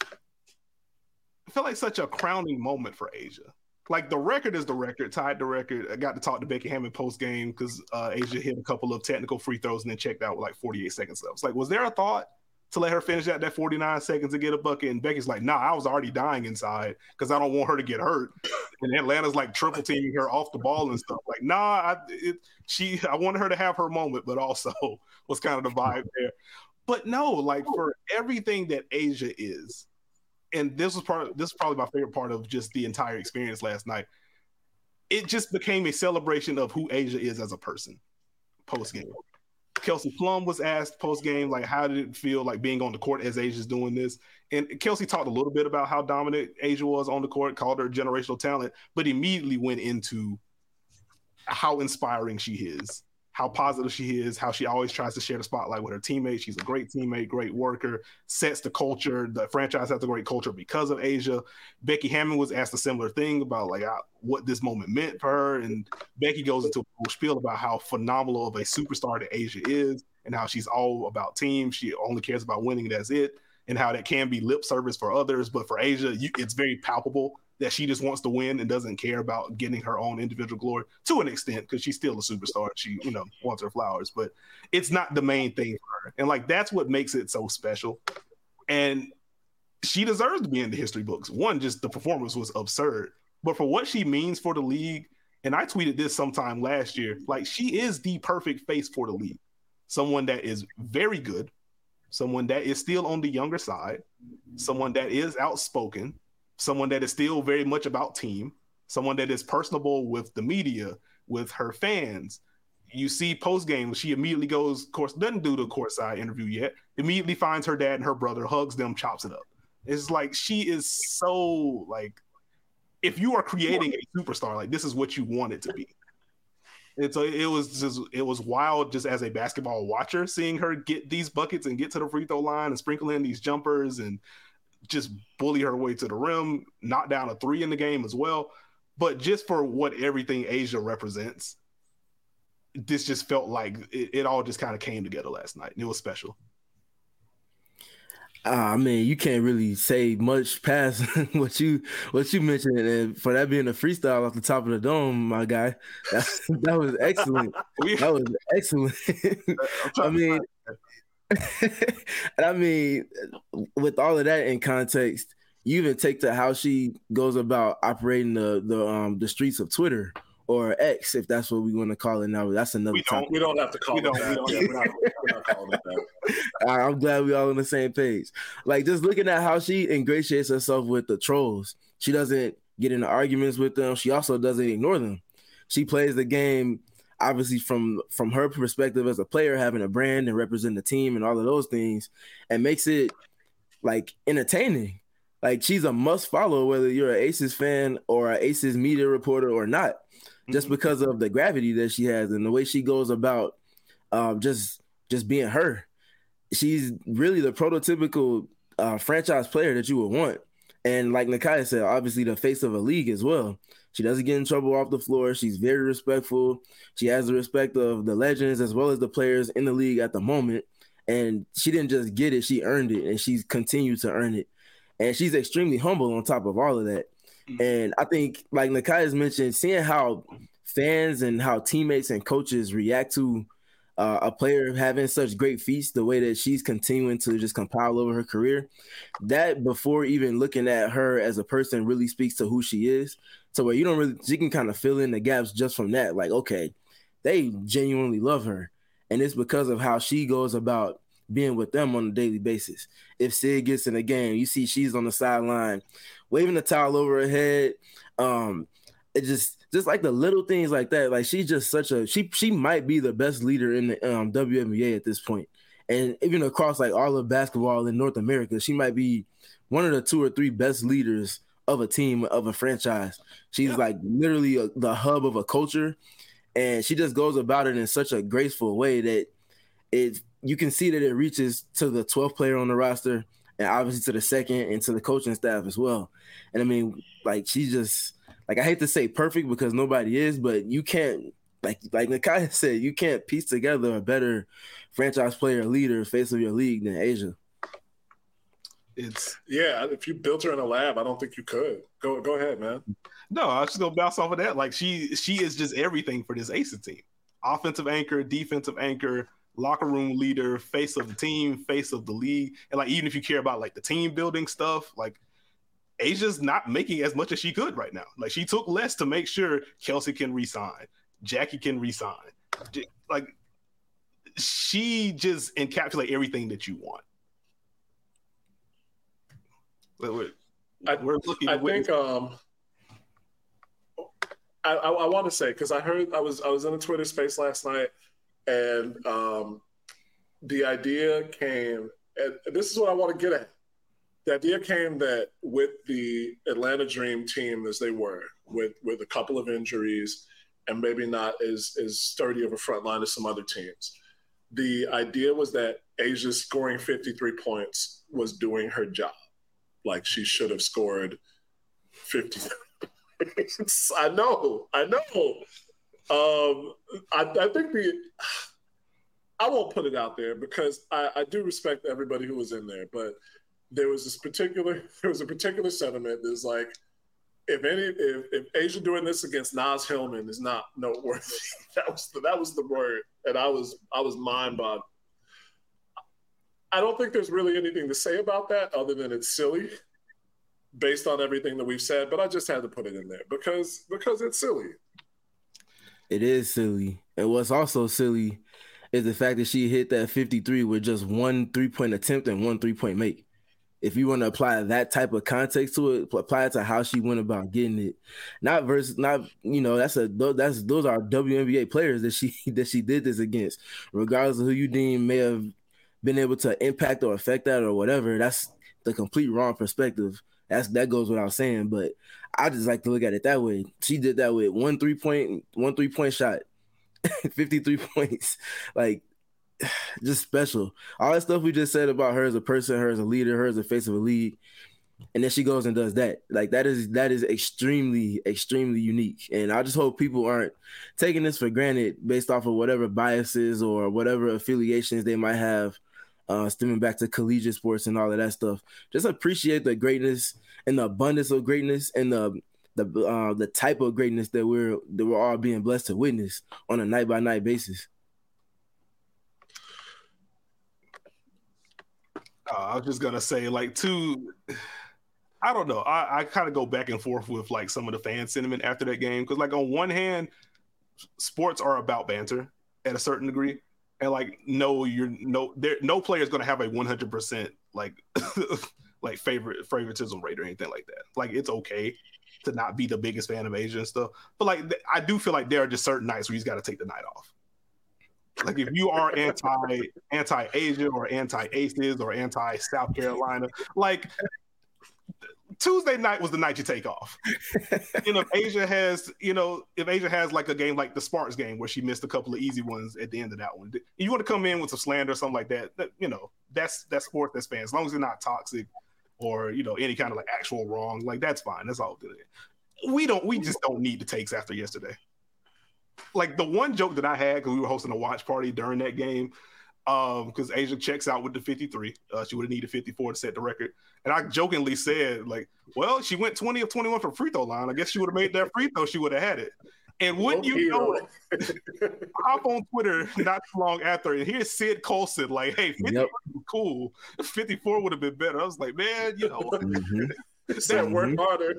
it felt like such a crowning moment for A'ja. Like the record is the record, tied the record. I got to talk to Becky Hammon post game because uh, A'ja hit a couple of technical free throws and then checked out with like forty-eight seconds left. It's like, was there a thought to let her finish out that forty-nine seconds to get a bucket? And Becky's like, nah, I was already dying inside because I don't want her to get hurt. And Atlanta's like triple teaming her off the ball and stuff. Like, nah, I, it, she, I wanted her to have her moment, but also was kind of the vibe there. But no, like for everything that A'ja is, and this was part of, this is probably my favorite part of just the entire experience last night. It just became a celebration of who A'ja is as a person post game. Kelsey Plum was asked post game, like, how did it feel like being on the court as A'ja's doing this? And Kelsey talked a little bit about how dominant A'ja was on the court, called her generational talent, but immediately went into how inspiring she is, how positive she is, how she always tries to share the spotlight with her teammates. She's a great teammate, great worker, sets the culture. The franchise has a great culture because of A'ja. Becky Hammon was asked a similar thing about like what this moment meant for her. And Becky goes into a full spiel about how phenomenal of a superstar that A'ja is and how she's all about team. She only cares about winning, that's it. And how that can be lip service for others. But for A'ja, you, it's very palpable that she just wants to win and doesn't care about getting her own individual glory to an extent because she's still a superstar. She, you know, wants her flowers, but it's not the main thing for her. And like, that's what makes it so special. And she deserves to be in the history books. One, just the performance was absurd, but for what she means for the league, and I tweeted this sometime last year, like she is the perfect face for the league. Someone that is very good, someone that is still on the younger side, someone that is outspoken, someone that is still very much about team, someone that is personable with the media, with her fans. you see post game, she immediately goes, of course, doesn't do the courtside interview yet. Immediately finds her dad and her brother, hugs them, chops it up. It's like she is so like, if you are creating a superstar, like this is what you want it to be. It's a, it was just it was wild just as a basketball watcher seeing her get these buckets and get to the free throw line and sprinkle in these jumpers and just bully her way to the rim, knock down a three in the game as well. But just for what everything A'ja represents, this just felt like it, it all just kind of came together last night. And it was special. Uh, I mean, you can't really say much past what you what you mentioned, and for that being a freestyle off the top of the dome, my guy, that, that was excellent. That was excellent. I mean, I mean, with all of that in context, you even take to how she goes about operating the the um the streets of Twitter. Or X, if that's what we want to call it now. That's another we don't, topic. We don't have to call we it don't, that. We don't, yeah, we're, not, we're not calling it that. I'm glad we all on the same page. Like, just looking at how she ingratiates herself with the trolls. She doesn't get into arguments with them. She also doesn't ignore them. She plays the game, obviously, from, from her perspective as a player, having a brand and representing the team and all of those things, and makes it, like, entertaining. Like, she's a must follow, whether you're an Aces fan or an Aces media reporter or not. Just because of the gravity that she has and the way she goes about um, just just being her. She's really the prototypical uh, franchise player that you would want. And like Nakia said, obviously the face of a league as well. She doesn't get in trouble off the floor. She's very respectful. She has the respect of the legends as well as the players in the league at the moment. And she didn't just get it, she earned it, and she's continued to earn it. And she's extremely humble on top of all of that. And I think, like Nakia's mentioned, seeing how fans and how teammates and coaches react to uh, a player having such great feats, the way that she's continuing to just compile over her career, that before even looking at her as a person really speaks to who she is. So where you don't really, you can kind of fill in the gaps just from that. Like, okay, they genuinely love her. And it's because of how she goes about being with them on a daily basis. If Sid gets in a game, you see she's on the sideline waving the towel over her head. Um, it just just like the little things like that. Like she's just such a she she might be the best leader in the um, W N B A at this point. And even across like all of basketball in North America, she might be one of the two or three best leaders of a team, of a franchise. She's yeah. like literally a, the hub of a culture, and she just goes about it in such a graceful way that it you can see that it reaches to the twelfth player on the roster, and obviously to the second and to the coaching staff as well. And I mean, like she's just like, I hate to say perfect because nobody is, but you can't, like like Nakia said, you can't piece together a better franchise player, leader, face of your league than A'ja. It's yeah. If you built her in a lab, I don't think you could. Go go ahead, man. No, I was just gonna bounce off of that. Like she she is just everything for this Aces team. Offensive anchor, defensive anchor, locker room leader, face of the team, face of the league. And like even if you care about like the team building stuff, like A'ja's not making as much as she could right now. Like she took less to make sure Kelsey can resign, Jackie can resign. Like she just encapsulates everything that you want. We're, I, we're looking. I think. Um, I, I, I want to say because I heard I was I was in a Twitter space last night, and um, the idea came. And this is what I want to get at. The idea came that with the Atlanta Dream team as they were, with with a couple of injuries and maybe not as as sturdy of a front line as some other teams, the idea was that A'ja scoring fifty-three points was doing her job. Like she should have scored fifty. I know, I know. Um, I, I think the I won't put it out there because I, I do respect everybody who was in there, but there was this particular there was a particular sentiment that's like, if any if, if A'ja doing this against Naz Hillman is not noteworthy, that was the, that was the word, and I was I was mind boggling. I don't think there's really anything to say about that other than it's silly based on everything that we've said, but I just had to put it in there because because it's silly. It is silly. And what's also silly is the fact that she hit that fifty-three with just one three-point attempt and one three-point make. if you want to apply that type of context to it, apply it to how she went about getting it. Not versus, not you know, that's a that's those are W N B A players that she that she did this against, regardless of who you deem may have been able to impact or affect that or whatever. That's the complete wrong perspective. That's that goes without saying, but I just like to look at it that way. She did that with one three point one three point shot, fifty-three points, like. Just special. All that stuff we just said about her as a person, her as a leader, her as a face of a league, and then she goes and does that. Like that is that is extremely, extremely unique. And I just hope people aren't taking this for granted based off of whatever biases or whatever affiliations they might have, uh, stemming back to collegiate sports and all of that stuff. Just appreciate the greatness and the abundance of greatness and the the uh, the type of greatness that we're that we're all being blessed to witness on a night by night basis. Uh, I was just gonna say, like, two. I don't know. I, I kind of go back and forth with like some of the fan sentiment after that game because, like, on one hand, sports are about banter at a certain degree, and like, no, you're no, there, no player is gonna have a one hundred percent like, like favorite favoritism rate or anything like that. Like, it's okay to not be the biggest fan of Asia and stuff, but like, I do feel like there are just certain nights where you just got to take the night off. Like if you are anti anti Asia or anti Aces or anti South Carolina, like Tuesday night was the night you take off. You know, if Asia has, you know, if Asia has like a game like the Sparks game where she missed a couple of easy ones at the end of that one, you want to come in with some slander or something like that, that you know, that's that's sport, that's fans. As long as they're not toxic or, you know, any kind of like actual wrong, like that's fine. That's all good. We don't, we just don't need the takes after yesterday. Like the one joke that I had because we were hosting a watch party during that game, um, because Asia checks out with the fifty-three. Uh, she would have needed fifty-four to set the record. And I jokingly said, like, well, she went twenty of twenty-one from free throw line. I guess she would have made that free throw. She would have had it. And wouldn't you know it, hop on Twitter not too long after, and here's Sid Colson like, hey, fifty-four yep. was cool. fifty-four would have been better. I was like, man, you know. Mm-hmm. Said work harder.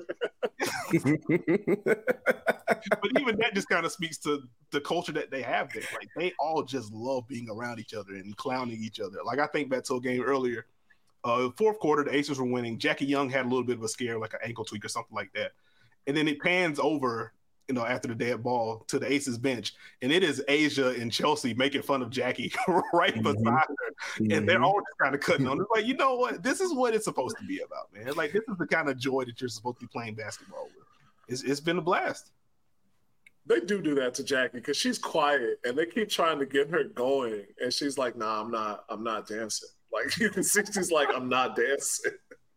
But even that just kind of speaks to the culture that they have there. Like they all just love being around each other and clowning each other. Like I think back to a game earlier, uh, fourth quarter, the Aces were winning. Jackie Young had a little bit of a scare, like an ankle tweak or something like that. And then it pans over, you know, after the dead ball to the Aces bench, and it is Asia and Chelsea making fun of Jackie right mm-hmm. beside her, mm-hmm. and they're all just kind of cutting on. It's like, you know what? This is what it's supposed to be about, man. Like this is the kind of joy that you're supposed to be playing basketball with. It's, it's been a blast. They do do that to Jackie because she's quiet, and they keep trying to get her going, and she's like, "Nah, I'm not. I'm not dancing." Like you can see, she's like, "I'm not dancing."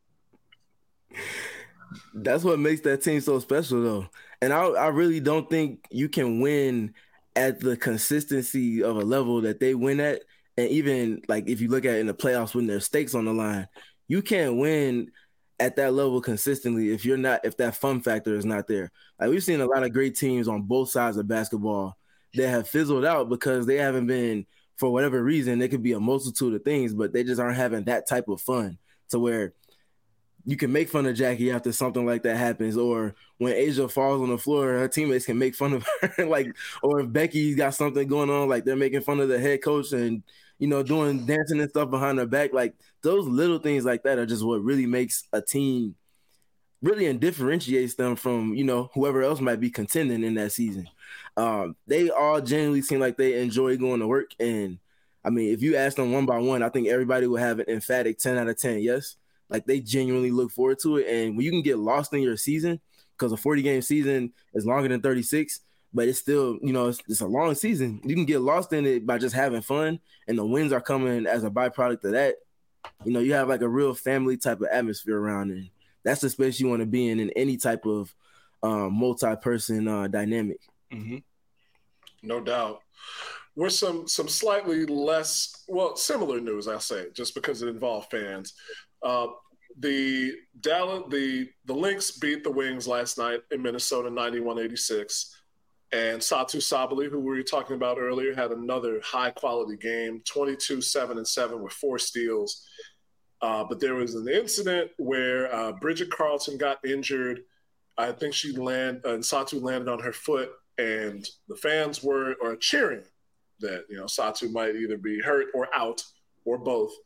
That's what makes that team so special, though. And I, I really don't think you can win at the consistency of a level that they win at. And even like if you look at it in the playoffs when there's stakes on the line, you can't win at that level consistently if you're not if that fun factor is not there. Like we've seen a lot of great teams on both sides of basketball that have fizzled out because they haven't been, for whatever reason, it could be a multitude of things, but they just aren't having that type of fun to where you can make fun of Jackie after something like that happens, or when Asia falls on the floor, her teammates can make fun of her. Like, or if Becky's got something going on, like they're making fun of the head coach and, you know, doing dancing and stuff behind her back. Like those little things like that are just what really makes a team really and differentiates them from, you know, whoever else might be contending in that season. Um, they all genuinely seem like they enjoy going to work. And I mean, if you ask them one by one, I think everybody will have an emphatic ten out of ten. Yes. Like they genuinely look forward to it. And when you can get lost in your season, because a forty game season is longer than thirty-six, but it's still, you know, it's, it's a long season. You can get lost in it by just having fun, and the wins are coming as a byproduct of that. You know, you have like a real family type of atmosphere around it. That's the space you want to be in in any type of um, multi-person uh, dynamic. Mm-hmm. No doubt. We're some some slightly less, well, similar news, I'll say, just because it involved fans. Uh, the Dallas, the the Lynx beat the Wings last night in Minnesota, ninety-one eighty-six, and Satu Sabally, who we were talking about earlier, had another high quality game, twenty-two, seven, and seven with four steals. Uh, but there was an incident where uh, Bridget Carlton got injured. I think she landed, and Satu landed on her foot, and the fans were or cheering that, you know, Satu might either be hurt or out or both.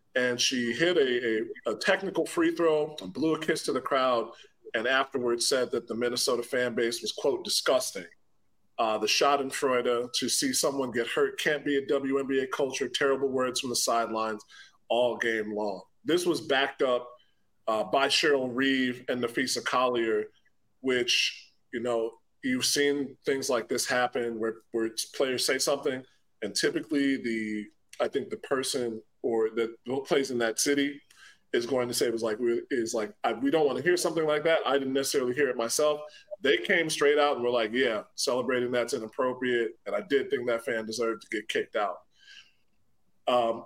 and she hit a, a, a technical free throw and blew a kiss to the crowd, and afterwards said that the Minnesota fan base was, quote, disgusting. Uh, the Schadenfreude, to see someone get hurt can't be a W N B A culture, terrible words from the sidelines all game long. This was backed up uh, by Cheryl Reeve and Nafisa Collier, which, you know, you've seen things like this happen where, where players say something, and typically the, I think the person or that plays in that city is going to say, it was like, is like, I, we don't want to hear something like that. I didn't necessarily hear it myself. They came straight out and were like, yeah, celebrating that's inappropriate. And I did think that fan deserved to get kicked out. Um,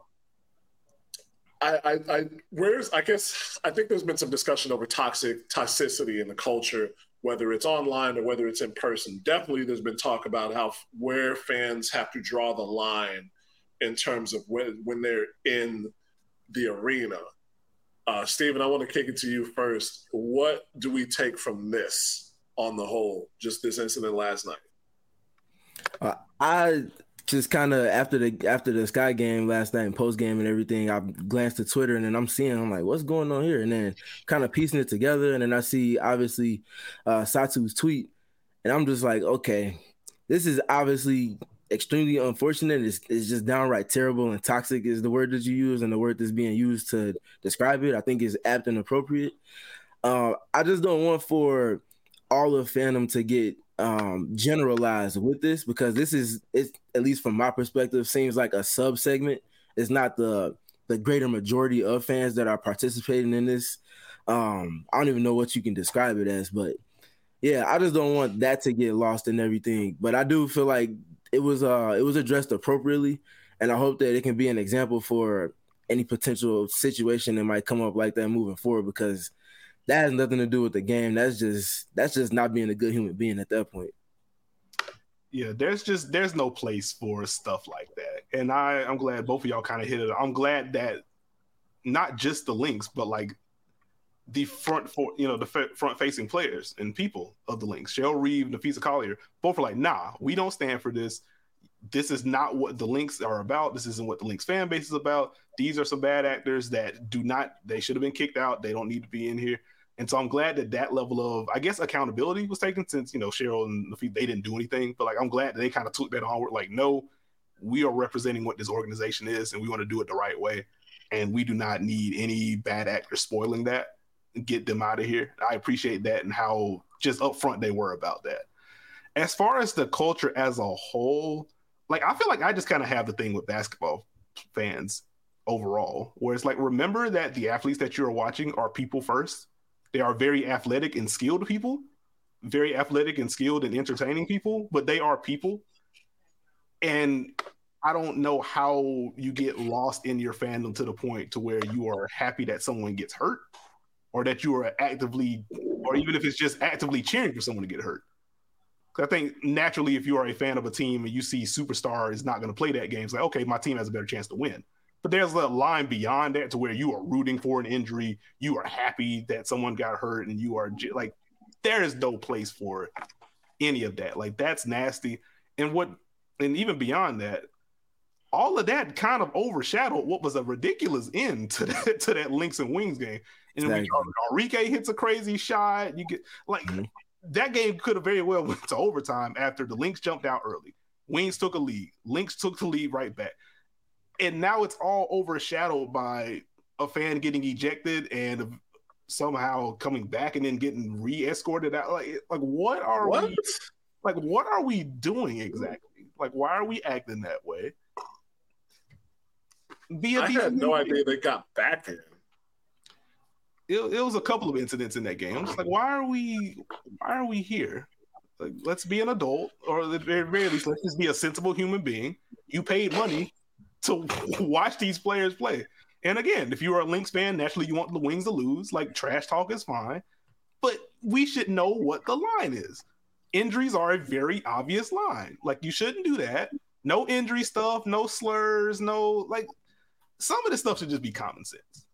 I, I, I, where's, I guess, I think there's been some discussion over toxic toxicity in the culture, whether it's online or whether it's in person. Definitely there's been talk about how, where fans have to draw the line in terms of when, when they're in the arena. Uh, Steven, I want to kick it to you first. What do we take from this on the whole, just this incident last night? Uh, I just kind of after the after the Sky game last night and post game and everything, I glanced at Twitter and then I'm seeing, I'm like, what's going on here? And then kind of piecing it together, and then I see obviously uh, Satu's tweet, and I'm just like, okay, this is obviously extremely unfortunate. It's, it's just downright terrible, and toxic is the word that you use, and the word that's being used to describe it, I think, is apt and appropriate. Uh, I just don't want for all of fandom to get um, generalized with this, because this is, it's, at least from my perspective, seems like a sub segment. It's not the the greater majority of fans that are participating in this. Um, I don't even know what you can describe it as, but yeah, I just don't want that to get lost in everything. But I do feel like it was uh it was addressed appropriately, and I hope that it can be an example for any potential situation that might come up like that moving forward, because that has nothing to do with the game. That's just that's just not being a good human being at that point. Yeah, there's just there's no place for stuff like that. And I, I'm glad both of y'all kind of hit it. I'm glad that not just the Lynx, but like the front for you know the f- front facing players and people of the Lynx, Cheryl Reeve, Nafisa Collier, both are like, nah, we don't stand for this. This is not what the Lynx are about. This isn't what the Lynx fan base is about. These are some bad actors that do not, they should have been kicked out. They don't need to be in here. And so I'm glad that that level of, I guess, accountability was taken, since, you know, Cheryl and Nafisa, they didn't do anything. But like, I'm glad that they kind of took that onward. Like, no, we are representing what this organization is, and we want to do it the right way. And we do not need any bad actors spoiling that. Get them out of here. I appreciate that and how just upfront they were about that. As far as the culture as a whole, like, I feel like I just kind of have the thing with basketball fans overall, where it's like, remember that the athletes that you're watching are people first. They are very athletic and skilled people, very athletic and skilled and entertaining people, but they are people. And I don't know how you get lost in your fandom to the point to where you are happy that someone gets hurt, or that you are actively, or even if it's just actively cheering for someone to get hurt. I think naturally, if you are a fan of a team and you see superstar is not going to play that game, it's like, okay, my team has a better chance to win. But there's a line beyond that to where you are rooting for an injury. You are happy that someone got hurt, and you are like, there is no place for any of that. Like, that's nasty. And what, and even beyond that, all of that kind of overshadowed what was a ridiculous end to that, to that Lynx and Wings game. And exactly. When Enrique hits a crazy shot, you get like, mm-hmm. That game could have very well went to overtime after the Lynx jumped out early. Wings took a lead. Lynx took the lead right back. And now it's all overshadowed by a fan getting ejected and somehow coming back and then getting re-escorted out. Like, like what are what? we like what are we doing exactly? Like, why are we acting that way? Via I had no idea they got back in. It, it was a couple of incidents in that game. I'm just like, why are we why are we here? Like, let's be an adult, or at the very least, let's just be a sensible human being. You paid money to watch these players play. And again, if you are a Lynx fan, naturally you want the Wings to lose. Like, trash talk is fine. But we should know what the line is. Injuries are a very obvious line. Like, you shouldn't do that. No injury stuff, no slurs, no, like, some of this stuff should just be common sense.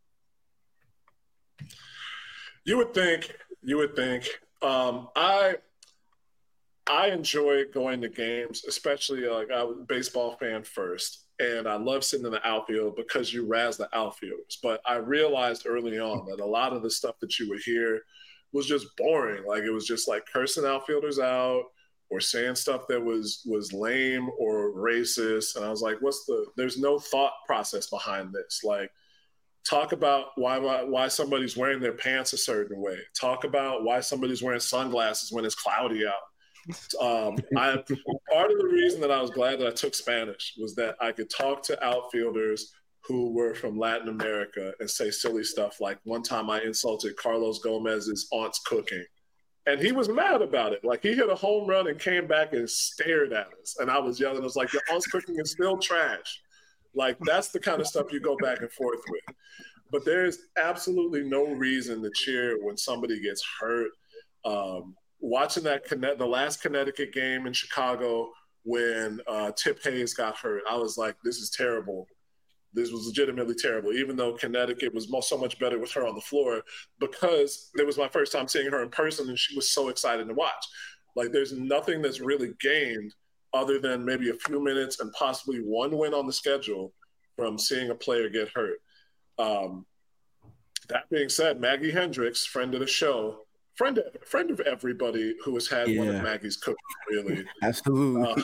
You would think, you would think. Um, I, I enjoy going to games, especially like I was a baseball fan first. And I love sitting in the outfield because you razz the outfielders. But I realized early on that a lot of the stuff that you would hear was just boring. Like it was just like cursing outfielders out or saying stuff that was was lame or racist. And I was like, what's the, there's no thought process behind this. Like, talk about why why somebody's wearing their pants a certain way. Talk about why somebody's wearing sunglasses when it's cloudy out. Um, I part of the reason that I was glad that I took Spanish was that I could talk to outfielders who were from Latin America and say silly stuff. Like one time I insulted Carlos Gomez's aunt's cooking, and he was mad about it. Like he hit a home run and came back and stared at us, and I was yelling. I was like, "Your aunt's cooking is still trash." Like that's the kind of stuff you go back and forth with. But there's absolutely no reason to cheer when somebody gets hurt. Um, watching that the last Connecticut game in Chicago when uh, Tip Hayes got hurt, I was like, this is terrible. This was legitimately terrible, even though Connecticut was so much better with her on the floor because it was my first time seeing her in person and she was so excited to watch. Like there's nothing that's really gained other than maybe a few minutes and possibly one win on the schedule from seeing a player get hurt. Um, that being said, Maggie Hendricks, friend of the show, friend of, friend of everybody who has had yeah. one of Maggie's cookies, really. Absolutely.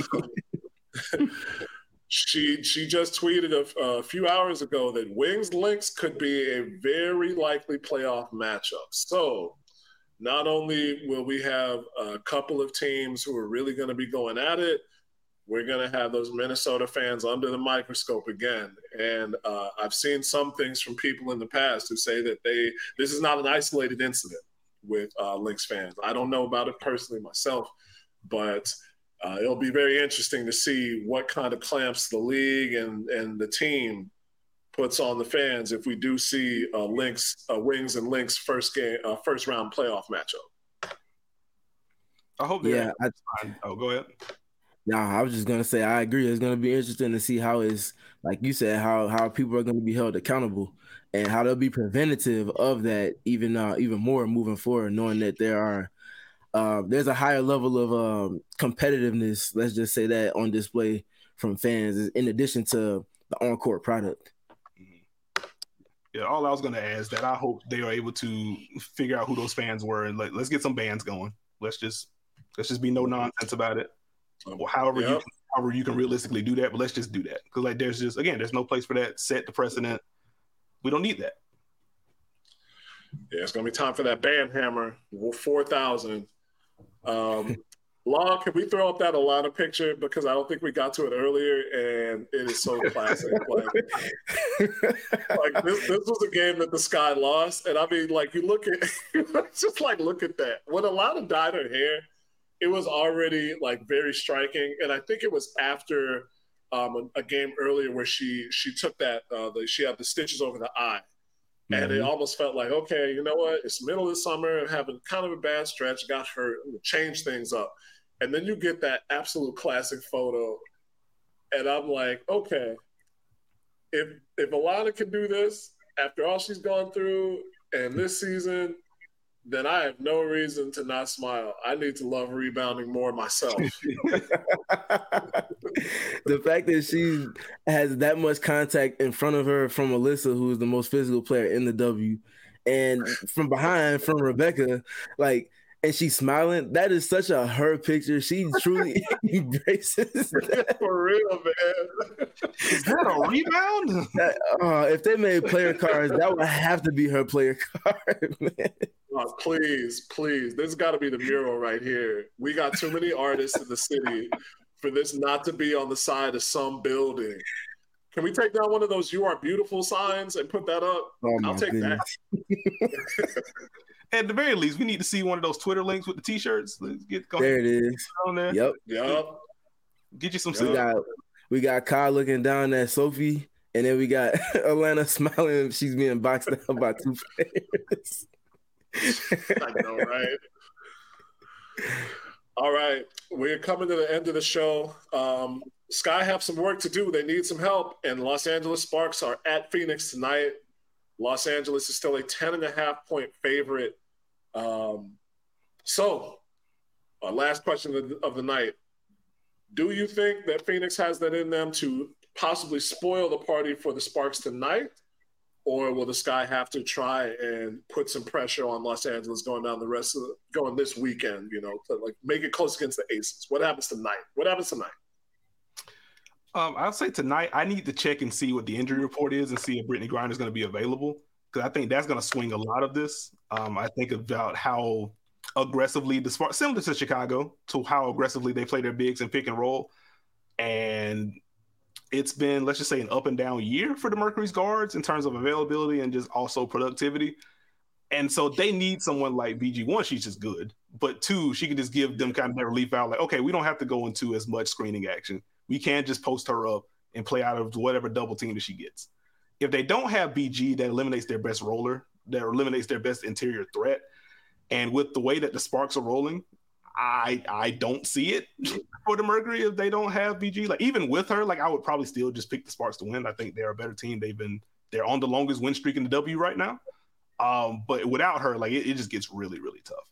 Um, she she just tweeted a, a few hours ago that Wings Lynx could be a very likely playoff matchup. So not only will we have a couple of teams who are really going to be going at it, we're going to have those Minnesota fans under the microscope again. And uh, I've seen some things from people in the past who say that they this is not an isolated incident with uh, Lynx fans. I don't know about it personally myself, but uh, it'll be very interesting to see what kind of clamps the league and, and the team puts on the fans if we do see a Lynx, a Wings and Lynx first game, uh, first round playoff matchup. I hope. Yeah. I, oh, go ahead. No, I was just gonna say I agree. It's gonna be interesting to see how it's like you said how how people are gonna be held accountable and how they'll be preventative of that even uh, even more moving forward, knowing that there are uh, there's a higher level of um, competitiveness. Let's just say that on display from fans, in addition to the on-court product. Yeah, all I was gonna add is that I hope they are able to figure out who those fans were and let, let's get some bands going. Let's just let's just be no nonsense about it. Or however yep. you can, however you can realistically do that, but let's just do that because like there's just again there's no place for that. Set the precedent. We don't need that. Yeah, it's gonna be time for that band hammer. Four thousand. Um, Law, can we throw up that Alana picture because I don't think we got to it earlier, and it is so classic. like, like this, this was a game that the Sky lost, and I mean, like you look at, just like look at that. When Alana dyed her hair, it was already like very striking, and I think it was after um, a, a game earlier where she she took that uh, the, she had the stitches over the eye, mm-hmm. and it almost felt like okay, you know what? It's middle of the summer, and having kind of a bad stretch, got hurt, change things up, and then you get that absolute classic photo, and I'm like, okay, if if Alana can do this after all she's gone through, and this season. Then I have no reason to not smile. I need to love rebounding more myself. The fact that she has that much contact in front of her from Alyssa, who is the most physical player in the W, and from behind from Rebecca, like, and she's smiling. That is such a her picture. She truly embraces that. For real, man. Is that a rebound? That, uh, if they made player cards, that would have to be her player card, man. Oh, please, please. This has got to be the mural right here. We got too many artists in the city for this not to be on the side of some building. Can we take down one of those "You Are Beautiful" signs and put that up? Oh, I'll take goodness. that. At the very least, we need to see one of those Twitter links with the T-shirts. Let's get go there. It is on there. Yep. Yep. Get you some. We got we got Kyle looking down at Sophie, and then we got Alana smiling. She's being boxed down by two players. I know, right? All right. We're coming to the end of the show. Um, Sky have some work to do. They need some help. And Los Angeles Sparks are at Phoenix tonight. Los Angeles is still a ten and a half point favorite. Um, so Uh, last question of the, of the night. Do you think that Phoenix has that in them to possibly spoil the party for the Sparks tonight? Or will the Sky have to try and put some pressure on Los Angeles going down the rest of the, going this weekend, you know, to like make it close against the Aces? What happens tonight? What happens tonight? Um, I'll say tonight, I need to check and see what the injury report is and see if Brittany Griner is going to be available, because I think that's going to swing a lot of this. Um, I think about how aggressively the Sparks, similar to Chicago, to how aggressively they play their bigs and pick and roll. And it's been, let's just say, an up and down year for the Mercury's guards in terms of availability and just also productivity. And so they need someone like B G. One, she's just good. But two, she can just give them kind of that relief out. Like, okay, we don't have to go into as much screening action. We can't just post her up and play out of whatever double team that she gets. If they don't have B G, that eliminates their best roller, that eliminates their best interior threat. And with the way that the Sparks are rolling, I I don't see it for the Mercury if they don't have B G. Like, even with her, like, I would probably still just pick the Sparks to win. I think they're a better team. They've been they're on the longest win streak in the W right now. Um, but without her, like, it, it just gets really, really tough.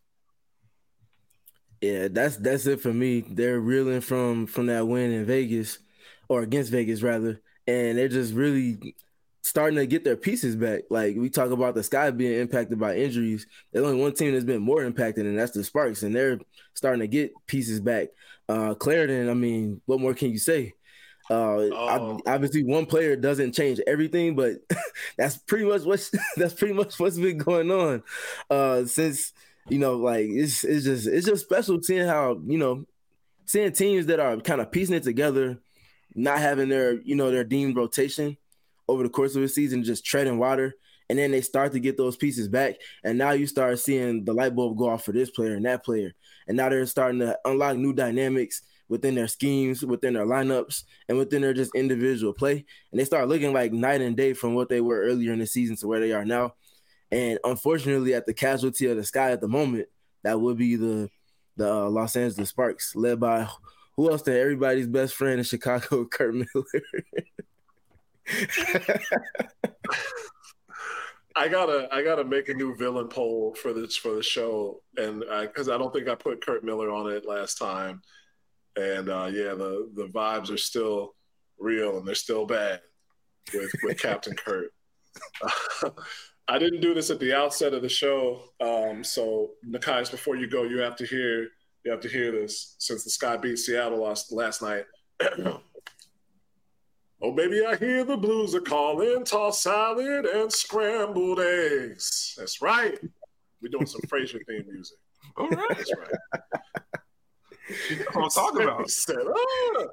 Yeah, that's that's it for me. They're reeling from from that win in Vegas, or against Vegas rather, and they're just really starting to get their pieces back. Like, we talk about the Sky being impacted by injuries. There's only one team that's been more impacted, and that's the Sparks, and they're starting to get pieces back. Uh, Clarendon, I mean, what more can you say? Uh, oh. Obviously, one player doesn't change everything, but that's pretty much what's that's pretty much what's been going on uh, since. You know, like, it's it's just it's just special seeing how, you know, seeing teams that are kind of piecing it together, not having their, you know, their deemed rotation over the course of the season, just treading water, and then they start to get those pieces back, and now you start seeing the light bulb go off for this player and that player, and now they're starting to unlock new dynamics within their schemes, within their lineups, and within their just individual play, and they start looking like night and day from what they were earlier in the season to where they are now. And unfortunately, at the casualty of the Sky at the moment, that would be the the uh, Los Angeles Sparks, led by who else? Than everybody's best friend in Chicago, Curt Miller. I gotta I gotta make a new villain poll for this for the show, and because I, I don't think I put Curt Miller on it last time, and uh, yeah, the the vibes are still real and they're still bad with with Captain Curt. I didn't do this at the outset of the show, um, so Nekias, before you go, you have to hear you have to hear this since the Sky beat Seattle last last night. Oh, baby, I hear the Blues are calling, tossed salad and scrambled eggs. That's right. We're doing some Frasier theme music. All right, that's right. That's what I'm talking about. Said, oh.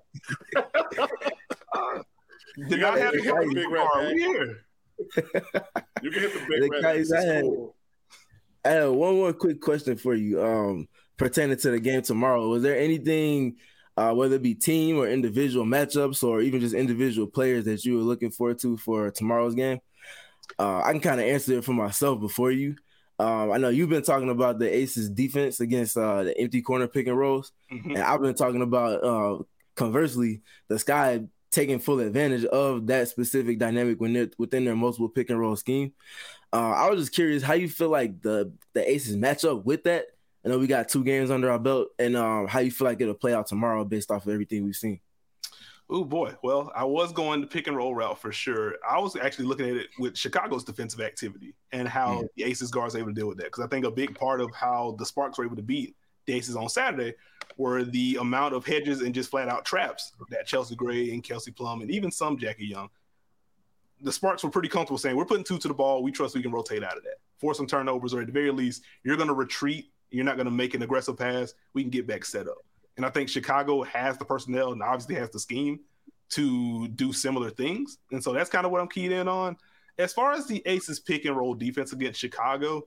uh, did not have to hit the big red here. You can hit the big red. Guys, I, had, cool. I had one more quick question for you um, pertaining to the game tomorrow. Was there anything, uh, whether it be team or individual matchups or even just individual players that you were looking forward to for tomorrow's game? Uh, I can kind of answer it for myself before you. Um, I know you've been talking about the Aces defense against uh, the empty corner pick and rolls, mm-hmm. and I've been talking about, uh, conversely, the Sky taking full advantage of that specific dynamic when they're within their multiple pick and roll scheme. Uh, I was just curious how you feel like the the Aces match up with that. I know we got two games under our belt, and um, how you feel like it'll play out tomorrow based off of everything we've seen. Oh boy, well, I was going the pick and roll route for sure. I was actually looking at it with Chicago's defensive activity and how mm-hmm. the Aces guards are able to deal with that, because I think a big part of how the Sparks were able to beat the Aces on Saturday were the amount of hedges and just flat out traps that Chelsea Gray and Kelsey Plum and even some Jackie Young. The Sparks were pretty comfortable saying, we're putting two to the ball. We trust we can rotate out of that. Force some turnovers, or at the very least, you're going to retreat. You're not going to make an aggressive pass. We can get back set up. And I think Chicago has the personnel and obviously has the scheme to do similar things. And so that's kind of what I'm keyed in on. As far as the Aces pick and roll defense against Chicago,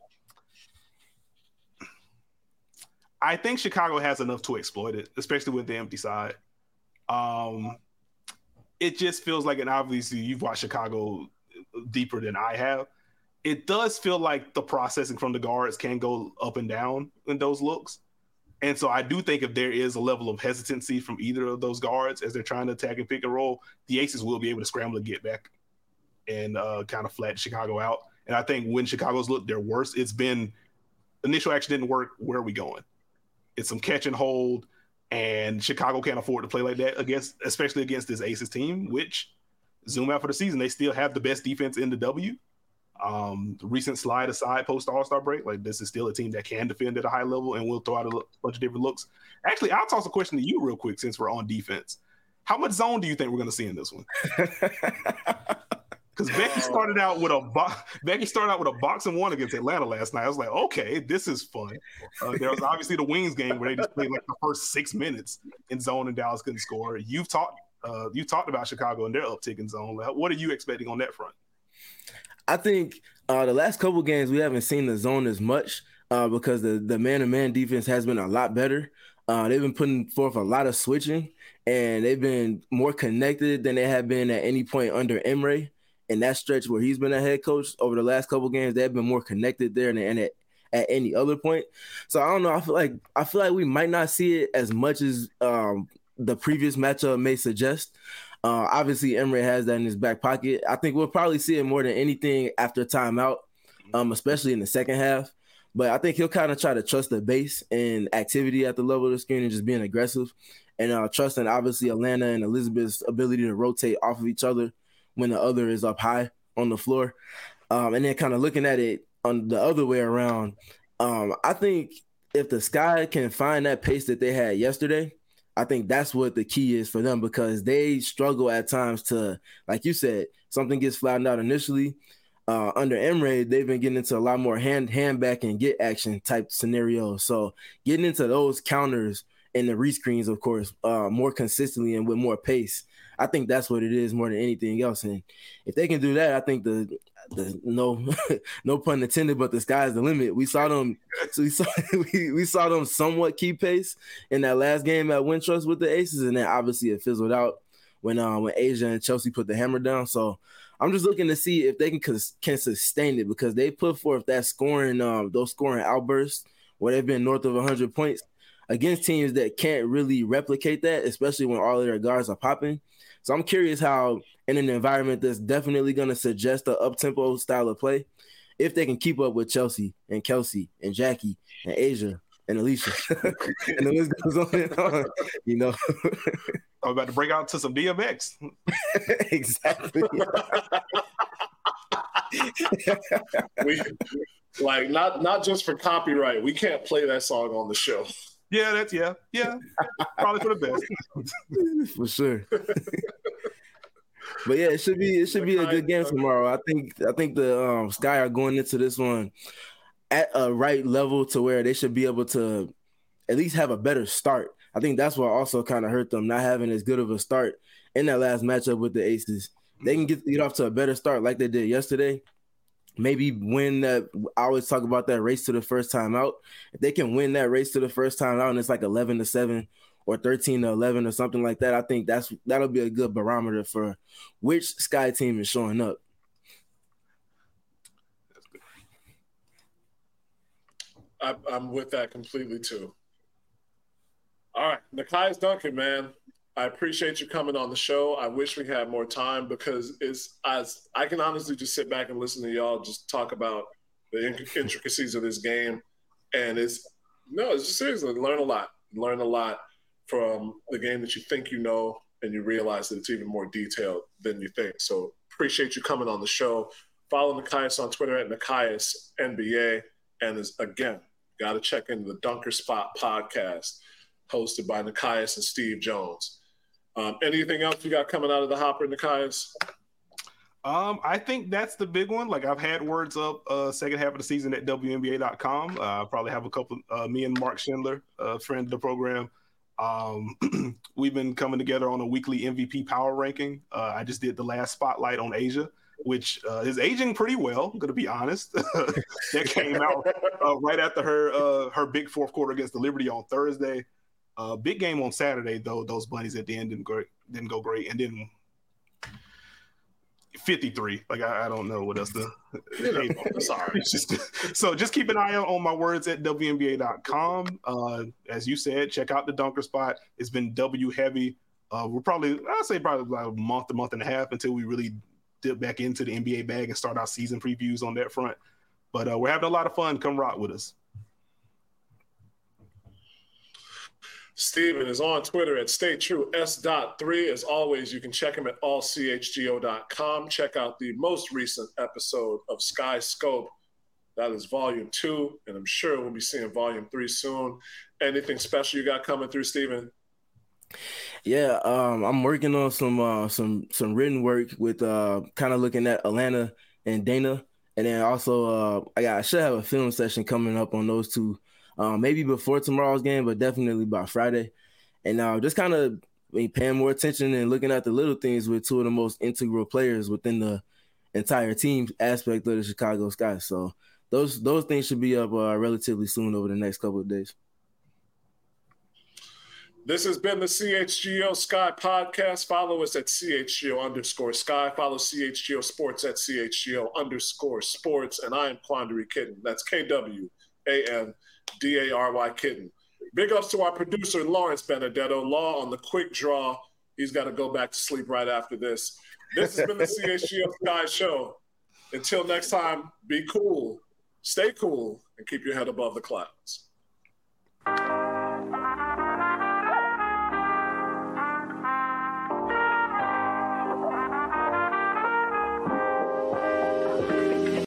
I think Chicago has enough to exploit it, especially with the empty side. Um, it just feels like, and obviously you've watched Chicago deeper than I have, it does feel like the processing from the guards can go up and down in those looks. And so I do think if there is a level of hesitancy from either of those guards as they're trying to attack and pick and roll, the Aces will be able to scramble to get back and uh, kind of flatten Chicago out. And I think when Chicago's looked their worst, it's been initial action didn't work. Where are we going? It's some catch and hold, and Chicago can't afford to play like that against, especially against this Aces team, which zoom out for the season, they still have the best defense in the W. Um, the recent slide aside post All-Star break, like this is still a team that can defend at a high level and will throw out a bunch of different looks. Actually, I'll toss a question to you real quick since we're on defense. How much zone do you think we're going to see in this one? Because Becky started out with a bo- Becky started out with a boxing one against Atlanta last night. I was like, okay, this is fun. Uh, there was obviously the Wings game where they just played like the first six minutes in zone and Dallas couldn't score. You've talked uh, you talked about Chicago and their uptick in zone. What are you expecting on that front? I think uh, the last couple games we haven't seen the zone as much uh, because the the man-to-man defense has been a lot better. Uh, they've been putting forth a lot of switching, and they've been more connected than they have been at any point under Emre. In that stretch where he's been a head coach over the last couple games, they've been more connected there than at, at any other point. So I don't know. I feel like I feel like we might not see it as much as um, the previous matchup may suggest. Uh, obviously, Emre has that in his back pocket. I think we'll probably see it more than anything after timeout, um, especially in the second half. But I think he'll kind of try to trust the base and activity at the level of the screen and just being aggressive, and uh, trusting obviously Atlanta and Elizabeth's ability to rotate off of each other when the other is up high on the floor. Um, and then kind of looking at it on the other way around, um, I think if the Sky can find that pace that they had yesterday, I think that's what the key is for them, because they struggle at times to, like you said, something gets flattened out initially. Uh, under Emre, they've been getting into a lot more hand, hand back and get action type scenarios. So getting into those counters and the rescreens, of course, uh, more consistently and with more pace, I think that's what it is more than anything else. And if they can do that, I think the, the no no pun intended, but the sky's the limit. We saw them so we saw we, we saw them somewhat keep pace in that last game at Wintrust with the Aces, and then obviously it fizzled out when uh, when Asia and Chelsea put the hammer down. So I'm just looking to see if they can can sustain it, because they put forth that scoring um, those scoring outbursts where they've been north of one hundred points against teams that can't really replicate that, especially when all of their guards are popping. So I'm curious how, in an environment that's definitely going to suggest an up-tempo style of play, if they can keep up with Chelsea and Kelsey and Jackie and Asia and Alicia. And the list goes on and on, you know. I'm about to break out to some D M X. Exactly. we, like, not not just for copyright. We can't play that song on the show. Yeah, that's yeah, yeah. Probably for the best. For sure. But yeah, it should be it should be a good game tomorrow. I think I think the um, Sky are going into this one at a right level to where they should be able to at least have a better start. I think that's what also kind of hurt them, not having as good of a start in that last matchup with the Aces. They can get get off to a better start like they did yesterday. Maybe win that. I always talk about that race to the first time out. If they can win that race to the first time out and it's like eleven to seven or thirteen to eleven or something like that, I think that's that'll be a good barometer for which Sky team is showing up. I, I'm with that completely too. All right, Nekias Duncan, man. I appreciate you coming on the show. I wish we had more time, because it's as I can honestly just sit back and listen to y'all just talk about the intricacies of this game, and it's no, it's just seriously learn a lot, learn a lot from the game that you think you know, and you realize that it's even more detailed than you think. So appreciate you coming on the show. Follow Nekias on Twitter at Nekias N B A, and is again got to check into the Dunker Spot podcast hosted by Nekias and Steve Jones. Um, anything else you got coming out of the hopper, Nekias? Um, I think that's the big one. Like, I've had words up uh, second half of the season at W N B A dot com. Uh, I'll probably have a couple, uh, me and Mark Schindler, a uh, friend of the program. Um, we've been coming together on a weekly M V P power ranking. Uh, I just did the last spotlight on Asia, which uh, is aging pretty well, I'm going to be honest. That came out uh, right after her uh, her big fourth quarter against the Liberty on Thursday. Uh, big game on Saturday, though. Those bunnies at the end didn't go, didn't go great. And then fifty-three. Like, I, I don't know what else to – sorry. Just, so just keep an eye out on my words at W N B A dot com. Uh, as you said, check out the Dunker Spot. It's been W-heavy. Uh, we're probably – I'd say probably about a month, a month and a half until we really dip back into the N B A bag and start our season previews on that front. But uh, we're having a lot of fun. Come rock with us. Steven is on Twitter at Stay True S dot three. As always, you can check him at all c h g o dot com. Check out the most recent episode of Sky Scope. That is volume two, and I'm sure we'll be seeing volume three soon. Anything special you got coming through, Steven? Yeah, um, I'm working on some uh, some some written work with uh, kind of looking at Atlanta and Dana, and then also uh, I got I should have a film session coming up on those two, um, maybe before tomorrow's game, but definitely by Friday. And uh, just kind of I mean, paying more attention and looking at the little things with two of the most integral players within the entire team aspect of the Chicago Sky. So those those things should be up uh, relatively soon over the next couple of days. This has been the C H G O Sky podcast. Follow us at C H G O underscore Sky. Follow C H G O Sports at C H G O underscore Sports. And I am Quandary Kitten. That's K W A N D A R Y Kitten. Big ups to our producer, Lawrence Benedetto. Law on the quick draw. He's got to go back to sleep right after this. This has been the C H G O Sky Show. Until next time, be cool, stay cool, and keep your head above the clouds.